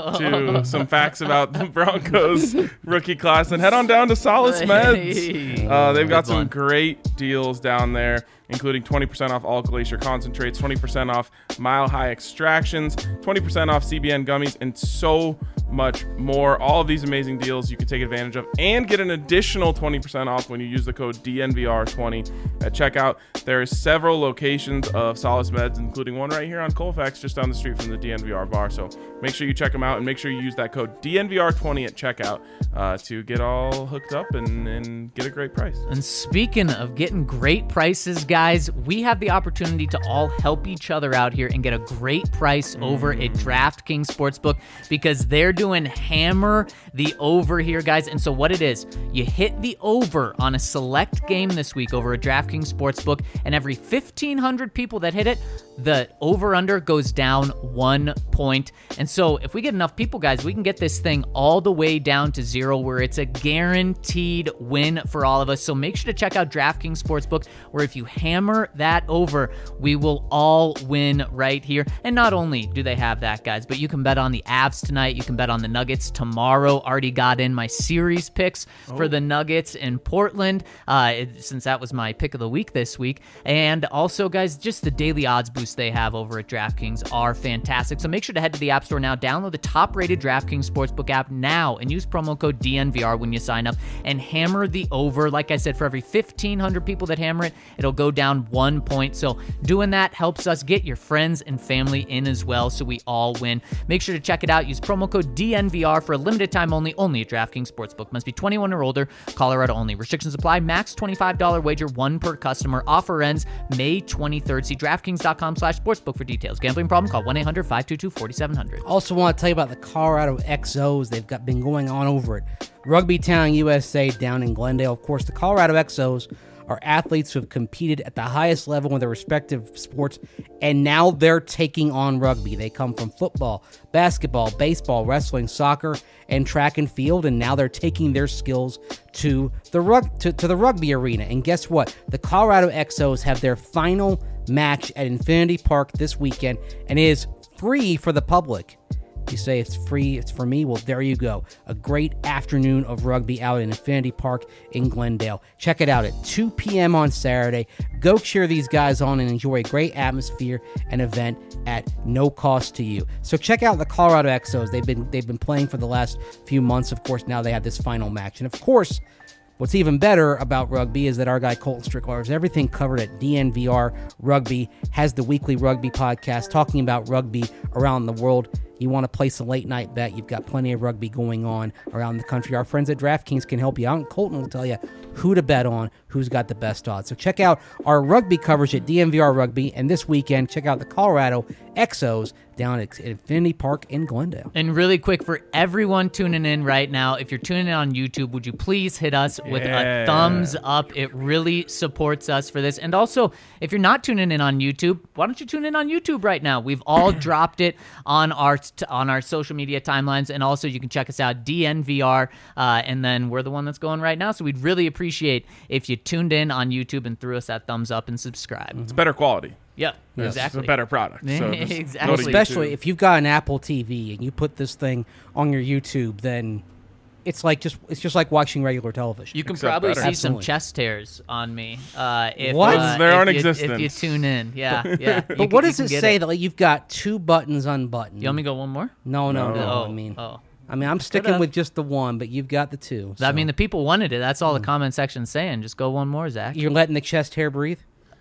to some facts about the Broncos rookie class, then head on down to Solace Meds. Uh, they've got Good some one. great deals down there, including twenty percent off all Glacier concentrates, twenty percent off Mile High extractions, twenty percent off C B N gummies, and so much more. All of these amazing deals you can take advantage of and get an additional twenty percent off when you use the code D N V R twenty at checkout. There is several locations of Solace Meds, including one right here on Colfax, just down the street from the D N V R bar. So make sure you check them out and make sure you use that code D N V R twenty at checkout uh, to get all hooked up and, and get a great price. And speaking of getting great prices, guys, we have the opportunity to all help each other out here and get a great price over at DraftKings Sportsbook because they're doing hammer the over here, guys. And so what it is, you hit the over on a select game this week over at DraftKings Sportsbook, and every fifteen hundred people that hit it, the over-under goes down one point. And so if we get enough people, guys, we can get this thing all the way down to zero where it's a guaranteed win for all of us. So make sure to check out DraftKings Sportsbook, where if you hammer that over, we will all win right here. And not only do they have that, guys, but you can bet on the Avs tonight. You can bet on the Nuggets tomorrow. Already got in my series picks oh. for the Nuggets in Portland, uh, it, since that was my pick of the week this week. And also, guys, just the daily odds boost they have over at DraftKings are fantastic. So make sure to head to the App Store now, download the top-rated DraftKings Sportsbook app now, and use promo code D N V R when you sign up, and hammer the over. Like I said, for every fifteen hundred people that hammer it, it'll go down one point. So doing that helps us get your friends and family in as well, so we all win. Make sure to check it out. Use promo code D N V R for a limited time only, only at DraftKings Sportsbook. Must be twenty-one or older, Colorado only. Restrictions apply. Max twenty-five dollars wager, one per customer. Offer ends May twenty-third. See DraftKings.com slash sportsbook for details. Gambling problem? Call one eight hundred five two two four seven zero zero. Also want to tell you about the Colorado X Os. They've got been going on over at Rugby Town U S A down in Glendale. Of course, the Colorado X Os are athletes who have competed at the highest level in their respective sports, and now they're taking on rugby. They come from football, basketball, baseball, wrestling, soccer, and track and field, and now they're taking their skills to the rug to, to the rugby arena. And guess what? The Colorado X Os have their final match at Infinity Park this weekend, and it is free for the public. You say it's free, it's for me. Well, there you go. A great afternoon of rugby out in Infinity Park in Glendale. Check it out at two p.m. on Saturday. Go cheer these guys on and enjoy a great atmosphere and event at no cost to you. So check out the Colorado X Os. They've been they've been playing for the last few months. Of course, now they have this final match. And of course, what's even better about rugby is that our guy Colton Strickler has everything covered at D N V R Rugby, has the weekly rugby podcast talking about rugby around the world. You want to place a late night bet, you've got plenty of rugby going on around the country. Our friends at DraftKings can help you out, and Colton will tell you who to bet on, who's got the best odds. So check out our rugby coverage at D N V R Rugby, and this weekend, check out the Colorado X Os down at Infinity Park in Glendale. And really quick, for everyone tuning in right now, if you're tuning in on YouTube, would you please hit us with Yeah. a thumbs up? It really supports us for this. And also, if you're not tuning in on YouTube, why don't you tune in on YouTube right now? We've all dropped it on our on our social media timelines, and also you can check us out, D N V R, uh, and then we're the one that's going right now. So we'd really appreciate if you tuned in on YouTube and threw us that thumbs up and subscribe. It's better quality. Yep, Yes, exactly. It's a better product. So just Exactly. go to Especially YouTube. if you've got an Apple T V and you put this thing on your YouTube, then it's like just it's just like watching regular television. You can Except probably better. see Absolutely. some chest hairs on me. Uh, if, What? Uh, They're if non-existent. You, if you tune in, yeah, yeah. But You what can- does you it can get say that like, you've got two buttons unbuttoned? You want me to go one more? No, no, no. Oh, I mean, oh. I mean, I'm sticking Could've. with just the one, but you've got the two. I so. mean, the people wanted it. That's all the comment section's saying. Just go one more, Zach. You're letting the chest hair breathe.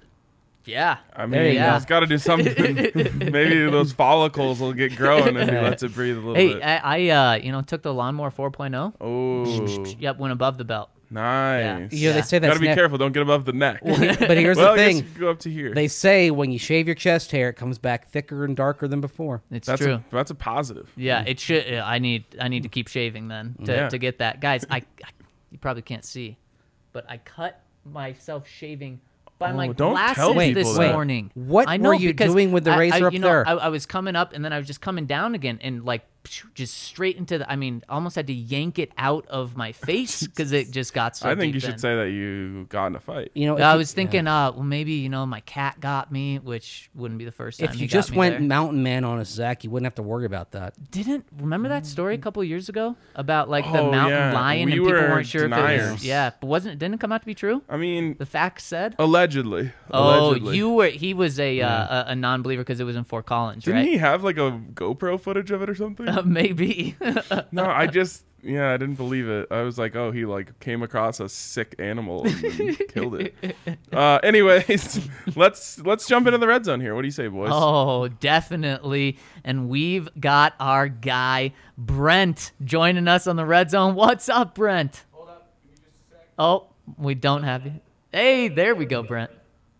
Yeah. I There you mean, go. it's got to do something. Maybe those follicles will get growing if he lets it breathe a little Hey, bit. I, I uh, you know, took the lawnmower four point oh. Oh, Yep, went above the belt. nice. You know, they say Got that's to be ne- careful. Don't get above the neck. But here's well, the I guess thing: you can go up to here. they say when you shave your chest hair, it comes back thicker and darker than before. It's that's true. A, that's a positive. Yeah, it should. uh, I need. I need to keep shaving then to, Yeah. to get that, guys. I, I, you probably can't see, but I cut myself shaving by Oh, my don't glasses tell this people that. morning. What I were know you because doing with the I- razor I, up you know, there? I, I was coming up and then I was just coming down again, and like just straight into the. I mean, almost had to yank it out of my face because it just got so. I think deep you should in. say that you got in a fight. You know, if I you- was thinking, uh, well, maybe you know, my cat got me, which wouldn't be the first time. if he you got just me went there. mountain man on us, Zach, you wouldn't have to worry about that. Didn't remember that story a couple years ago about like the Oh, mountain yeah. lion We and people were weren't sure if it was. deniers. Yeah, but wasn't didn't it come out to be true? I mean, The facts said. allegedly. Oh, Allegedly. you were. He was a uh, a, a non-believer because it was in Fort Collins, Didn't right? he have like a GoPro footage of it or something? Uh, maybe. No, I just yeah, I didn't believe it. I was like, oh, he like came across a sick animal and then killed it. Uh, anyways, let's let's jump into the red zone here. What do you say, boys? Oh, definitely. And we've got our guy Brent joining us on the red zone. What's up, Brent? Hold up. Give me just a sec. Oh, we don't have you. Hey, there we go, Brent.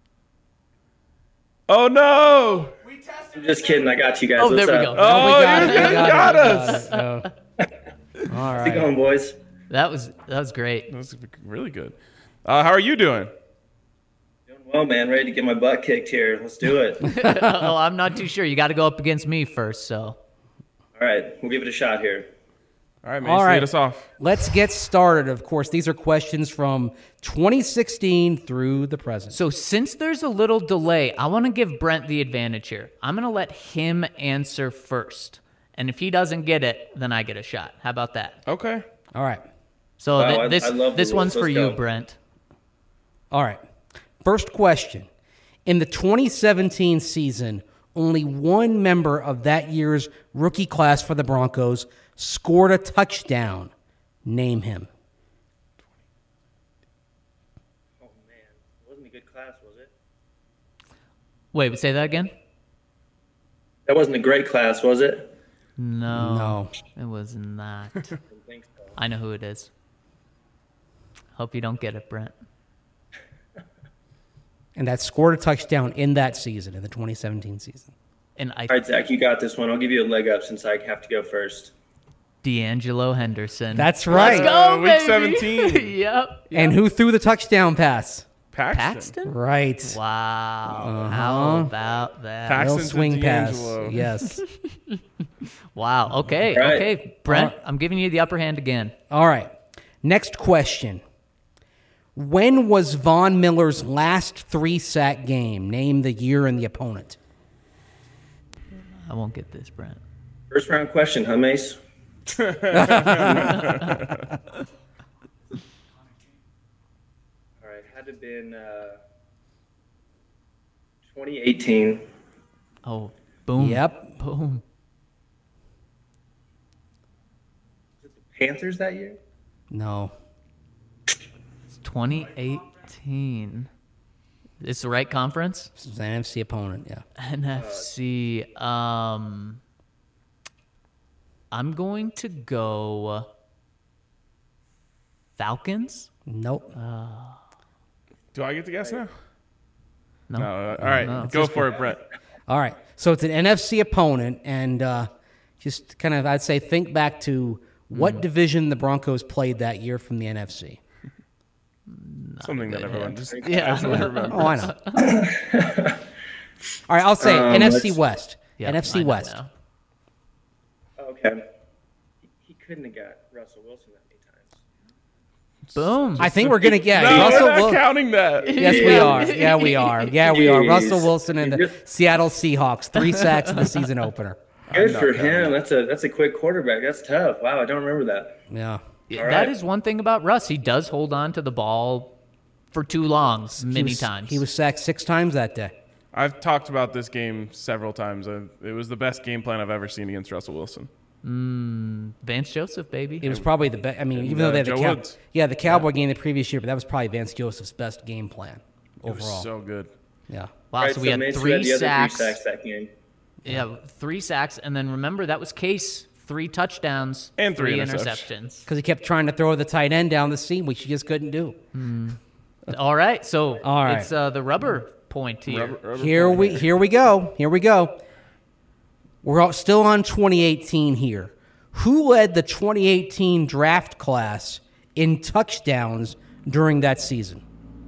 Oh no! I'm just kidding. I got you guys. Oh, What's there we up? go. Oh, we got you it, we guys got it, got we us. got it. Oh. All How's it right. going, boys? That was that was great. That's really good. Uh, how are you doing? Doing well, man. Ready to get my butt kicked here. Let's do it. Oh, I'm not too sure. You got to go up against me first, so. All right, we'll give it a shot here. All right, Mace, All right. lead us off. Let's get started. Of course, these are questions from twenty sixteen through the present. So since there's a little delay, I want to give Brent the advantage here. I'm going to let him answer first. And if he doesn't get it, then I get a shot. How about that? Okay. All right. So Wow, th- I- this I love the this rules. one's for Let's you, go. Brent. All right. First question. In the twenty seventeen season, only one member of that year's rookie class for the Broncos scored a touchdown. Name him. Oh, man. It wasn't a good class, was it? Wait, say that again? That wasn't a great class, was it? No. No. It was not. I don't think so. I know who it is. Hope you don't get it, Brent. And that scored a touchdown in that season, in the twenty seventeen season. And I All right, Zach, you got this one. I'll give you a leg up since I have to go first. D'Angelo Henderson. That's right. Let's go, Uh, week baby. seventeen. Yep. And who threw the touchdown pass? Paxton. Paxton? Right. Wow. How about that? Paxton. Little to swing pass. D'Angelo. Yes. Wow. Okay. Right. Okay. Brent, Uh, I'm giving you the upper hand again. All right. Next question. When was Von Miller's last three-sack game? Name the year and the opponent. I won't get this, Brent. First round question, huh, Mace? All right, had to been uh, twenty eighteen. Oh, boom. Yep. Boom. Was it the Panthers that year? No. It's twenty eighteen. It's the right conference? This is an N F C opponent, yeah. N F C. Um, I'm going to go Falcons. Nope. Do I get to guess now? No. No. uh, all right, no. go for it, Brett. All right. So it's an N F C opponent, and uh, just kind of, I'd say, think back to what division the Broncos played that year from the N F C. Something that everyone just Yeah. casually remembers. Oh, I know. All right, I'll say Um, N F C let's- West. Yep, N F C I know West. now. Okay. He, he couldn't have got Russell Wilson that many times. Boom. I think we're gonna get No, Russell we're not Wil- counting that. Yes, we are. Yeah, we are. Yeah, we are. Jeez. Russell Wilson and the You're- Seattle Seahawks, three sacks in the season opener. Good for him. That's a that's a quick quarterback. That's tough. Wow, I don't remember that. Yeah. Yeah, All that right. is one thing about Russ. He does hold on to the ball for too long, many He was- times. He was sacked six times that day. I've talked about this game several times. Uh, It was the best game plan I've ever seen against Russell Wilson. Vance Joseph, baby. It was probably the best. I mean, even uh, though they had the Joe Cow- Woods. yeah the Cowboy game the previous year, but that was probably Vance Joseph's best game plan It was overall. so good. yeah. Wow, All right, so we had Mace, who three had the other sacks. three sacks that game. Yeah, three sacks, and then remember that was Case, three touchdowns And three interceptions. interceptions. Because he kept trying to throw the tight end down the seam, which he just couldn't do. All right, so All right. it's uh, the rubber point here. Rubber- rubber Here point we here. here we go. Here we go. We're all, still on twenty eighteen here. Who led the twenty eighteen draft class in touchdowns during that season?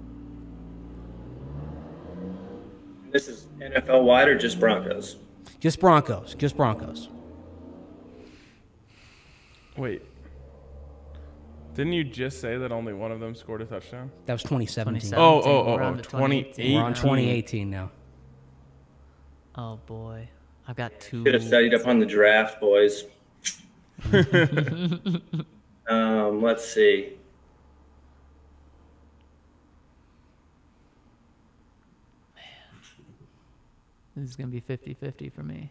This is N F L wide or just Broncos? Just Broncos. Just Broncos. Wait. Didn't you just say that only one of them scored a touchdown? That was twenty seventeen. Oh, oh, oh, We're on oh, to twenty eighteen. We're on twenty eighteen now. Oh boy, I've got two. Should have studied up on the draft, boys. um, let's see. This is gonna be fifty-fifty for me.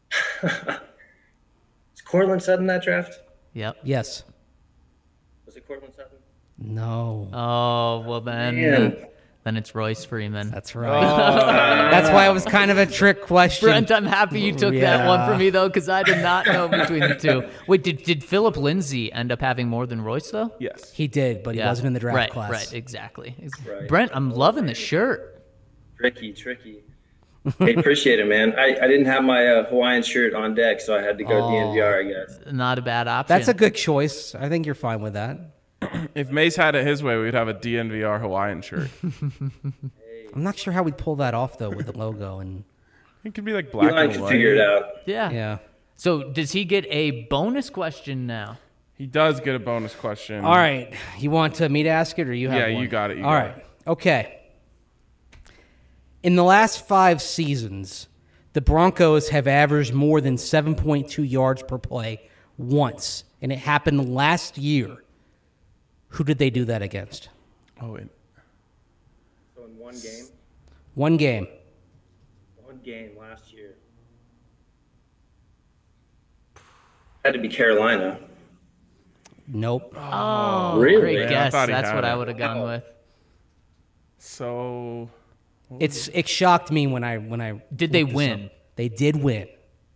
Is Cortland Sutton in that draft? Yep. Yes. Was it Cortland Sutton? No. Oh well then. Man. Then it's Royce Freeman. That's right. That's why it was kind of a trick question. Brent, I'm happy you took that one from me though, because I did not know between the two. Wait, did did Philip Lindsay end up having more than Royce though? Yes. He did, but he Yeah. wasn't in the draft right, class. Right, exactly. Right. Brent, I'm loving the shirt. Tricky, tricky. Hey, appreciate it, man. I, I didn't have my uh, Hawaiian shirt on deck, so I had to go D N V R, I guess. Not a bad option. That's a good choice. I think you're fine with that. If Mace had it his way, we'd have a D N V R Hawaiian shirt. I'm not sure how we'd pull that off though with the logo and It could be like black Eli and can white. figure it out. Yeah. yeah. So does he get a bonus question now? He does get a bonus question. All right. You want to me to ask it or you have Yeah, one? you got it, you All got right. Okay. In the last five seasons, the Broncos have averaged more than seven point two yards per play once, and it happened last year. Who did they do that against? Oh, wait. So in one game, One game. one game last year. Had to be Carolina. Nope. Oh, Really? great Yeah, I guess. thought he That's had what I it. would have gone with. So It's it shocked me when I when I Did they looked this win? up. They did win.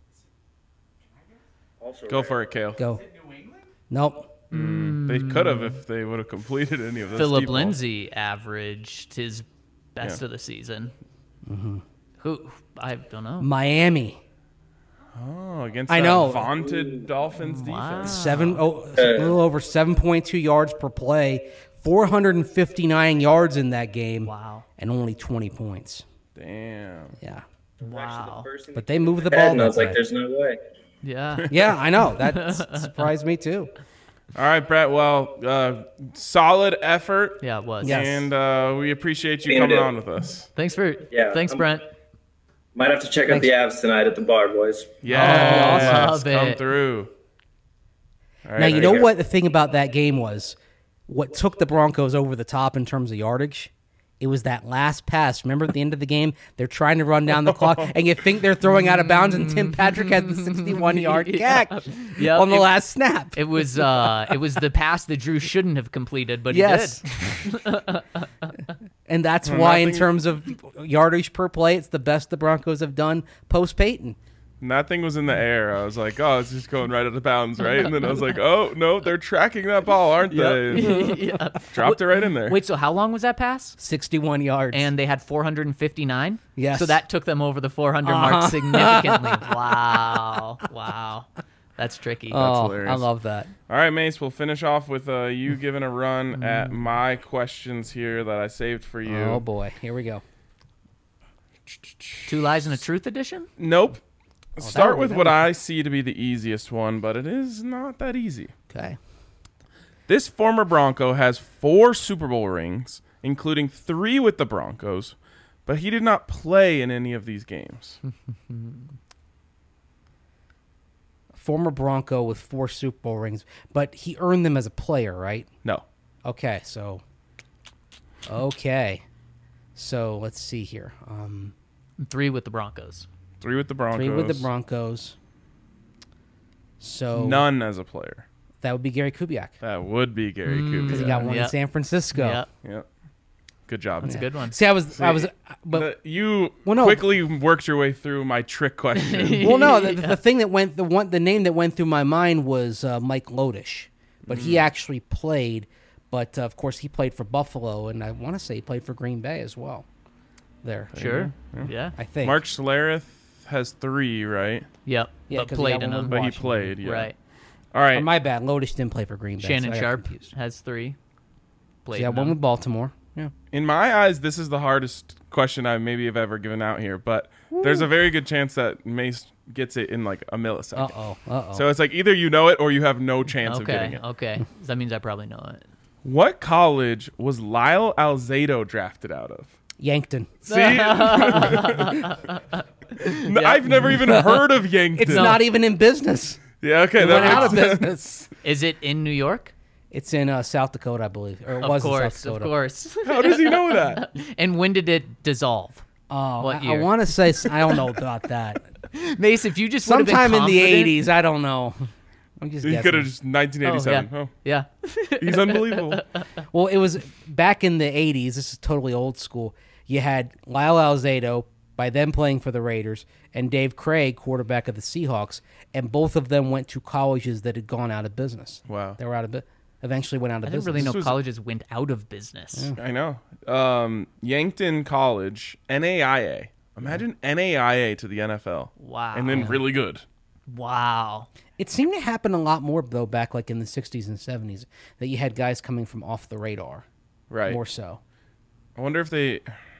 Also go for it, Kale. Go. Nope. They could have if they would have completed any of this. Philip deep ball. Lindsay averaged his best Yeah. of the season. Who? I don't know. Miami. Oh, against I that know. vaunted Dolphins Wow. defense. Seven oh, a little over seven point two yards per play, four hundred fifty-nine yards in that game, Wow. and only twenty points. Damn. Yeah, Wow. but they moved the Head, ball. and I was that like, way. "There's no way." Yeah. Yeah, I know that s- surprised me too. All right, Brett. Well, uh, solid effort. Yeah, it was. Yes. And uh, we appreciate you Same coming to- on with us. Thanks for. Yeah, Thanks, I'm- Brent. Might have to check out the abs tonight at the bar, boys. Yes, love come it. through. All right, Now you there know you go. what the thing about that game was. What took the Broncos over the top in terms of yardage? It was that last pass. Remember at the end of the game, they're trying to run down the clock, and you think they're throwing out of bounds, and Tim Patrick has the sixty-one yard Yeah. catch Yep, on the it- last snap. It was. Uh, it was the pass that Drew shouldn't have completed, but Yes. he did. And that's Well, why, in nothing- terms of yardage per play, it's the best the Broncos have done post Peyton. And that thing was in the air. I was like, oh, it's just going right out of bounds, right? And then I was like, oh, no, they're tracking that ball, aren't they? yeah. Dropped it right in there. Wait. So how long was that pass? sixty-one yards. And they had four hundred fifty-nine. Yes. So that took them over the four hundred Uh-huh. mark significantly. Wow. Wow. That's tricky. oh, hilarious. I love that. All right, Mace, we'll finish off with uh, you giving a run at my questions here that I saved for you. Oh boy, here we go. Two lies and a truth edition. Nope. that Start would- with that what would- I see to be the easiest one, but it is not that easy. Okay. This former Bronco has four Super Bowl rings, including three with the Broncos, but he did not play in any of these games. Former Bronco with four Super Bowl rings, but he earned them as a player, right? No. Okay, so okay, so let's see here. Um, Three with the Broncos. Three with the Broncos. three with the Broncos. So None as a player. that would be Gary Kubiak That would be Gary because he Kubiak. got one Yep. in San Francisco. Yeah. Yep. Good job. That's a man. good one. See, I was, I was, but The- you Well, no. quickly worked your way through my trick question. well, no, the, the thing that went, the one, the name that went through my mind was uh, Mike Lodish, but he actually played. But uh, of course, he played for Buffalo, and I want to say he played for Green Bay as well. There, Sure. Yeah. I think. Mark Schlereth has three, right? Yep. Yeah, but 'cause he played got in one them. with But he Washington. played, yeah. Right. All right. Uh, my bad. Lodish didn't play for Green Bay. Shannon so I got Sharp confused. has three. Played Yeah, in one them. with Baltimore. Yeah. In my eyes, this is the hardest question I maybe have ever given out here, but there's a very good chance that Mace gets it in like a millisecond. Uh-oh, uh-oh. So it's like either you know it or you have no chance of Okay, getting it. okay. That means I probably know it. What college was Lyle Alzado drafted out of? Yankton. See? N- I've never even heard of Yankton. It's not even in business. Yeah, okay. It that went out of makes sense. business. Is it in New York? It's in uh, South Dakota, I believe. Or it Of was course, in South of Dakota. course. How does he know that? And when did it dissolve? Oh, What I, I year? want to say, s- I don't know about that. Mace, if you just would have been Sometime in the confident- eighties, I don't know. I'm just He guessing. could have just nineteen eighty-seven. Oh, Oh, yeah. Yeah. he's unbelievable. Well, it was back in the eighties. This is totally old school. You had Lyle Alzado, by them playing for the Raiders, and Dave Craig, quarterback of the Seahawks, and both of them went to colleges that had gone out of business. Wow. They were out of business. Eventually went out of I didn't business. really know was- colleges went out of business. I know. Um, Yankton College, N A I A. Imagine N A I A to the N F L. Wow. And then really good. Wow. It seemed to happen a lot more, though, back like in the sixties and seventies, that you had guys coming from off the radar. Right. More so. I wonder if they,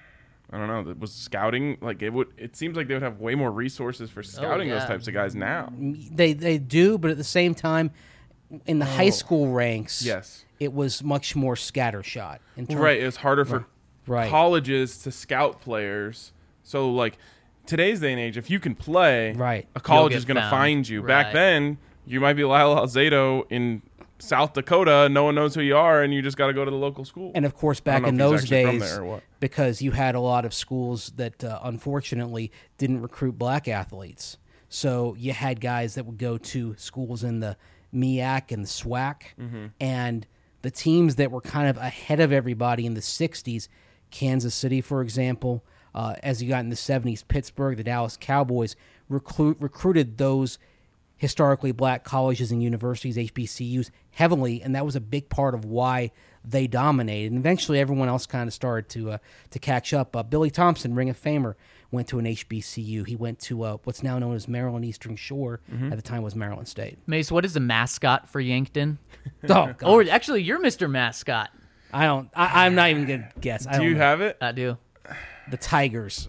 I don't know, that was scouting, like it would, it seems like they would have way more resources for scouting those yeah. types of guys now. They they do, but at the same time, in the high school ranks, Yes. it was much more scattershot. In terms, Right. It's harder for Right. colleges to scout players. So, like, today's day and age, if you can play, Right. a college You'll is get going to found. find you. Right. Back then, you might be Lyle Alzado in South Dakota. No one knows who you are, and you just got to go to the local school. And of course, I don't back know in if he's those actually from days, there or what. because you had a lot of schools that uh, unfortunately didn't recruit black athletes. So you had guys that would go to schools in the M E A C and the SWAC, Mm-hmm. and the teams that were kind of ahead of everybody in the sixties, Kansas City, for example, uh, as you got in the seventies, Pittsburgh, the Dallas Cowboys, recruit, recruited those historically black colleges and universities, H B C Us, heavily, and that was a big part of why they dominated. And eventually, everyone else kind of started to uh, to catch up. Uh, Billy Thompson, Ring of Famer, went to an H B C U. He went to uh, what's now known as Maryland Eastern Shore. Mm-hmm. At the time, was Maryland State. Mace, what is the mascot for Yankton? Oh, God. Or actually, you're Mister Mascot. I don't. I, I'm not even gonna guess. I Do don't you know. have it? I do. the Tigers?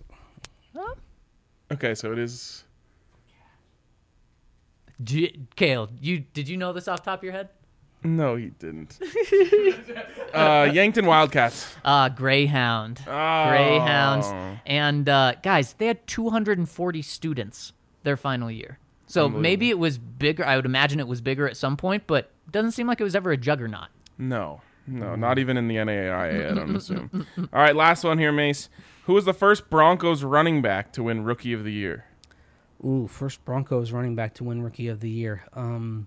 Okay, so it is. G- Kale, you did you know this off the top of your head? No, he didn't. uh, Yankton Wildcats. Uh, Greyhound. Oh. Greyhounds. And uh, guys, they had two hundred forty students their final year. So maybe it was bigger. I would imagine it was bigger at some point, but it doesn't seem like it was ever a juggernaut. No, no, not even in the N A I A, I don't assume. All right, last one here, Mace. Who was the first Broncos running back to win Rookie of the Year? Ooh, first Broncos running back to win Rookie of the Year. Um,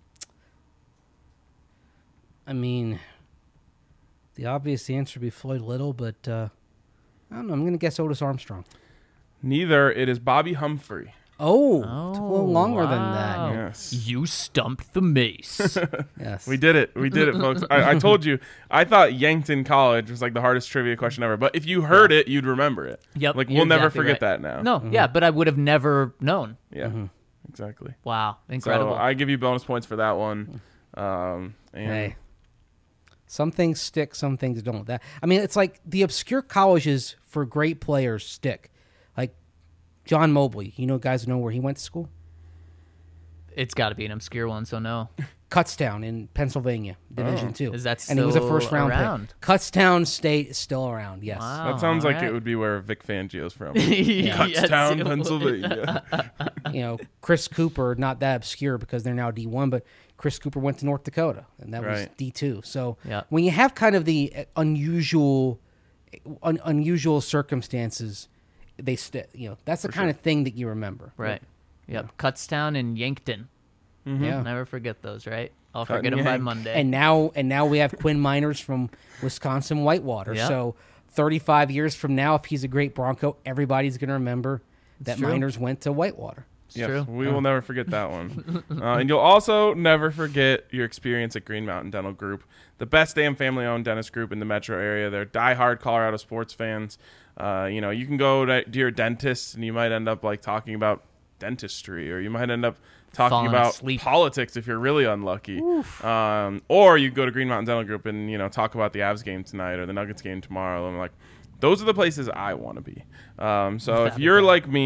I mean, the obvious answer would be Floyd Little, but uh, I don't know. I'm going to guess Otis Armstrong. Neither. It is Bobby Humphrey. Oh, took a little longer than that. wow. Yes. You stumped the mace. Yes. We did it. We did it, folks. I, I told you. I thought Yankton College was like the hardest trivia question ever. But if you heard it, you'd remember it. Yep, Like, you're we'll never exactly forget right. that now. No, yeah, but I would have never known. Yeah, exactly. Wow, incredible. So I give you bonus points for that one. Um, and Hey. Some things stick, some things don't. That I mean, it's like the obscure colleges for great players stick. Like John Mobley, you know, guys know where he went to school. It's got to be an obscure one, so no. Kutztown in Pennsylvania, Division Two. Is that and he was a still first round around? pick. Kutztown State is still around. Yes. Wow. that sounds all like right. it would be where Vic Fangio's from. Yes, Kutztown, it would. Pennsylvania. You know, Chris Cooper, not that obscure because they're now D one, but Chris Cooper went to North Dakota, and that was Right. D two. So Yeah. when you have kind of the unusual, un- unusual circumstances, they st- you know that's the kind of thing that you remember. Right. Yep. Kutztown and Yankton. Yeah. Never forget those, right? I'll Cut forget and them by yank. Monday. And now, and now we have Quinn Miners from Wisconsin Whitewater. Yeah. So thirty-five years from now, if he's a great Bronco, everybody's going to remember that true. Miners went to Whitewater. it's Yes, true. we will never forget that one. uh, and you'll also never forget your experience at Green Mountain Dental Group, the best damn family-owned dentist group in the metro area. They're diehard Colorado sports fans. Uh, you know, you can go to, to your dentist, and you might end up like talking about dentistry, or you might end up talking Falling about asleep. politics if you're really unlucky. Um, or you go to Green Mountain Dental Group and you know talk about the Avs game tonight or the Nuggets game tomorrow. And I'm like, those are the places I want to be. Um, so if you're like me,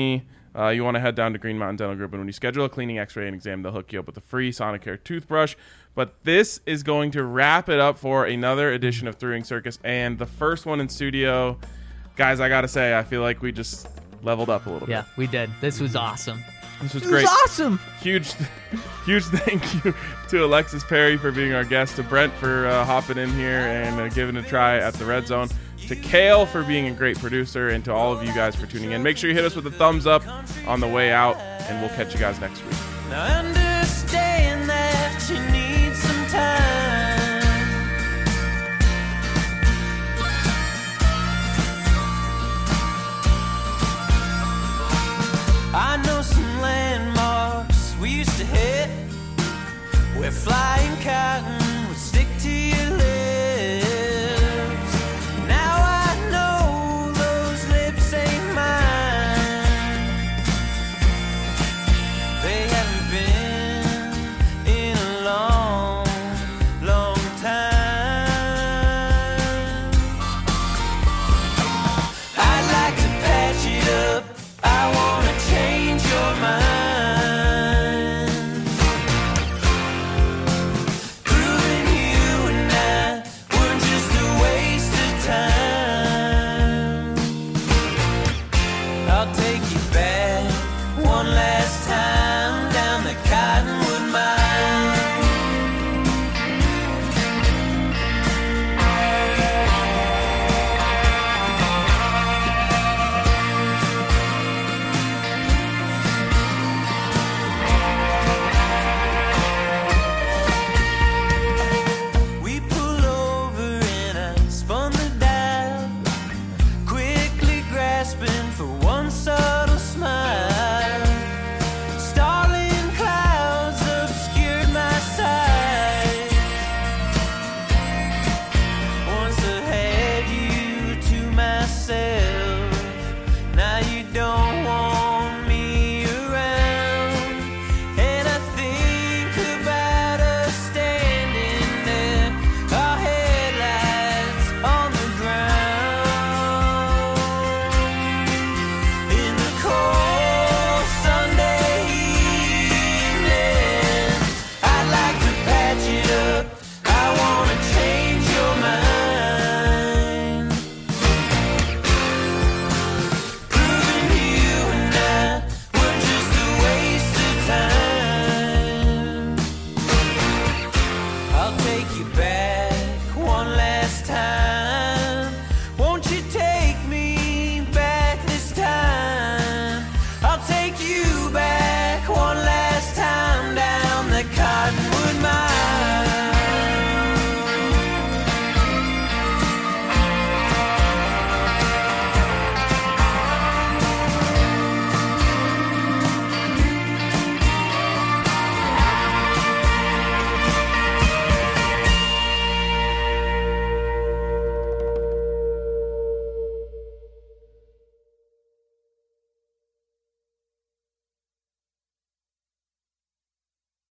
uh, you want to head down to Green Mountain Dental Group. And when you schedule a cleaning, x-ray, and exam, they'll hook you up with a free Sonicare toothbrush. But this is going to wrap it up for another edition of Three Ring Circus. And the first one in studio, guys, I got to say, I feel like we just leveled up a little Yeah, bit. we did. This was awesome. This was It great. was awesome. Huge, huge thank you to Alexis Perry for being our guest, to Brent for uh, hopping in here and uh, giving it a try at the Red Zone, to Kale for being a great producer, and to all of you guys for tuning in. Make sure you hit us with a thumbs up on the way out, and we'll catch you guys next week. Now understand that you need some time. I know some landmarks we used to hit. We're flying.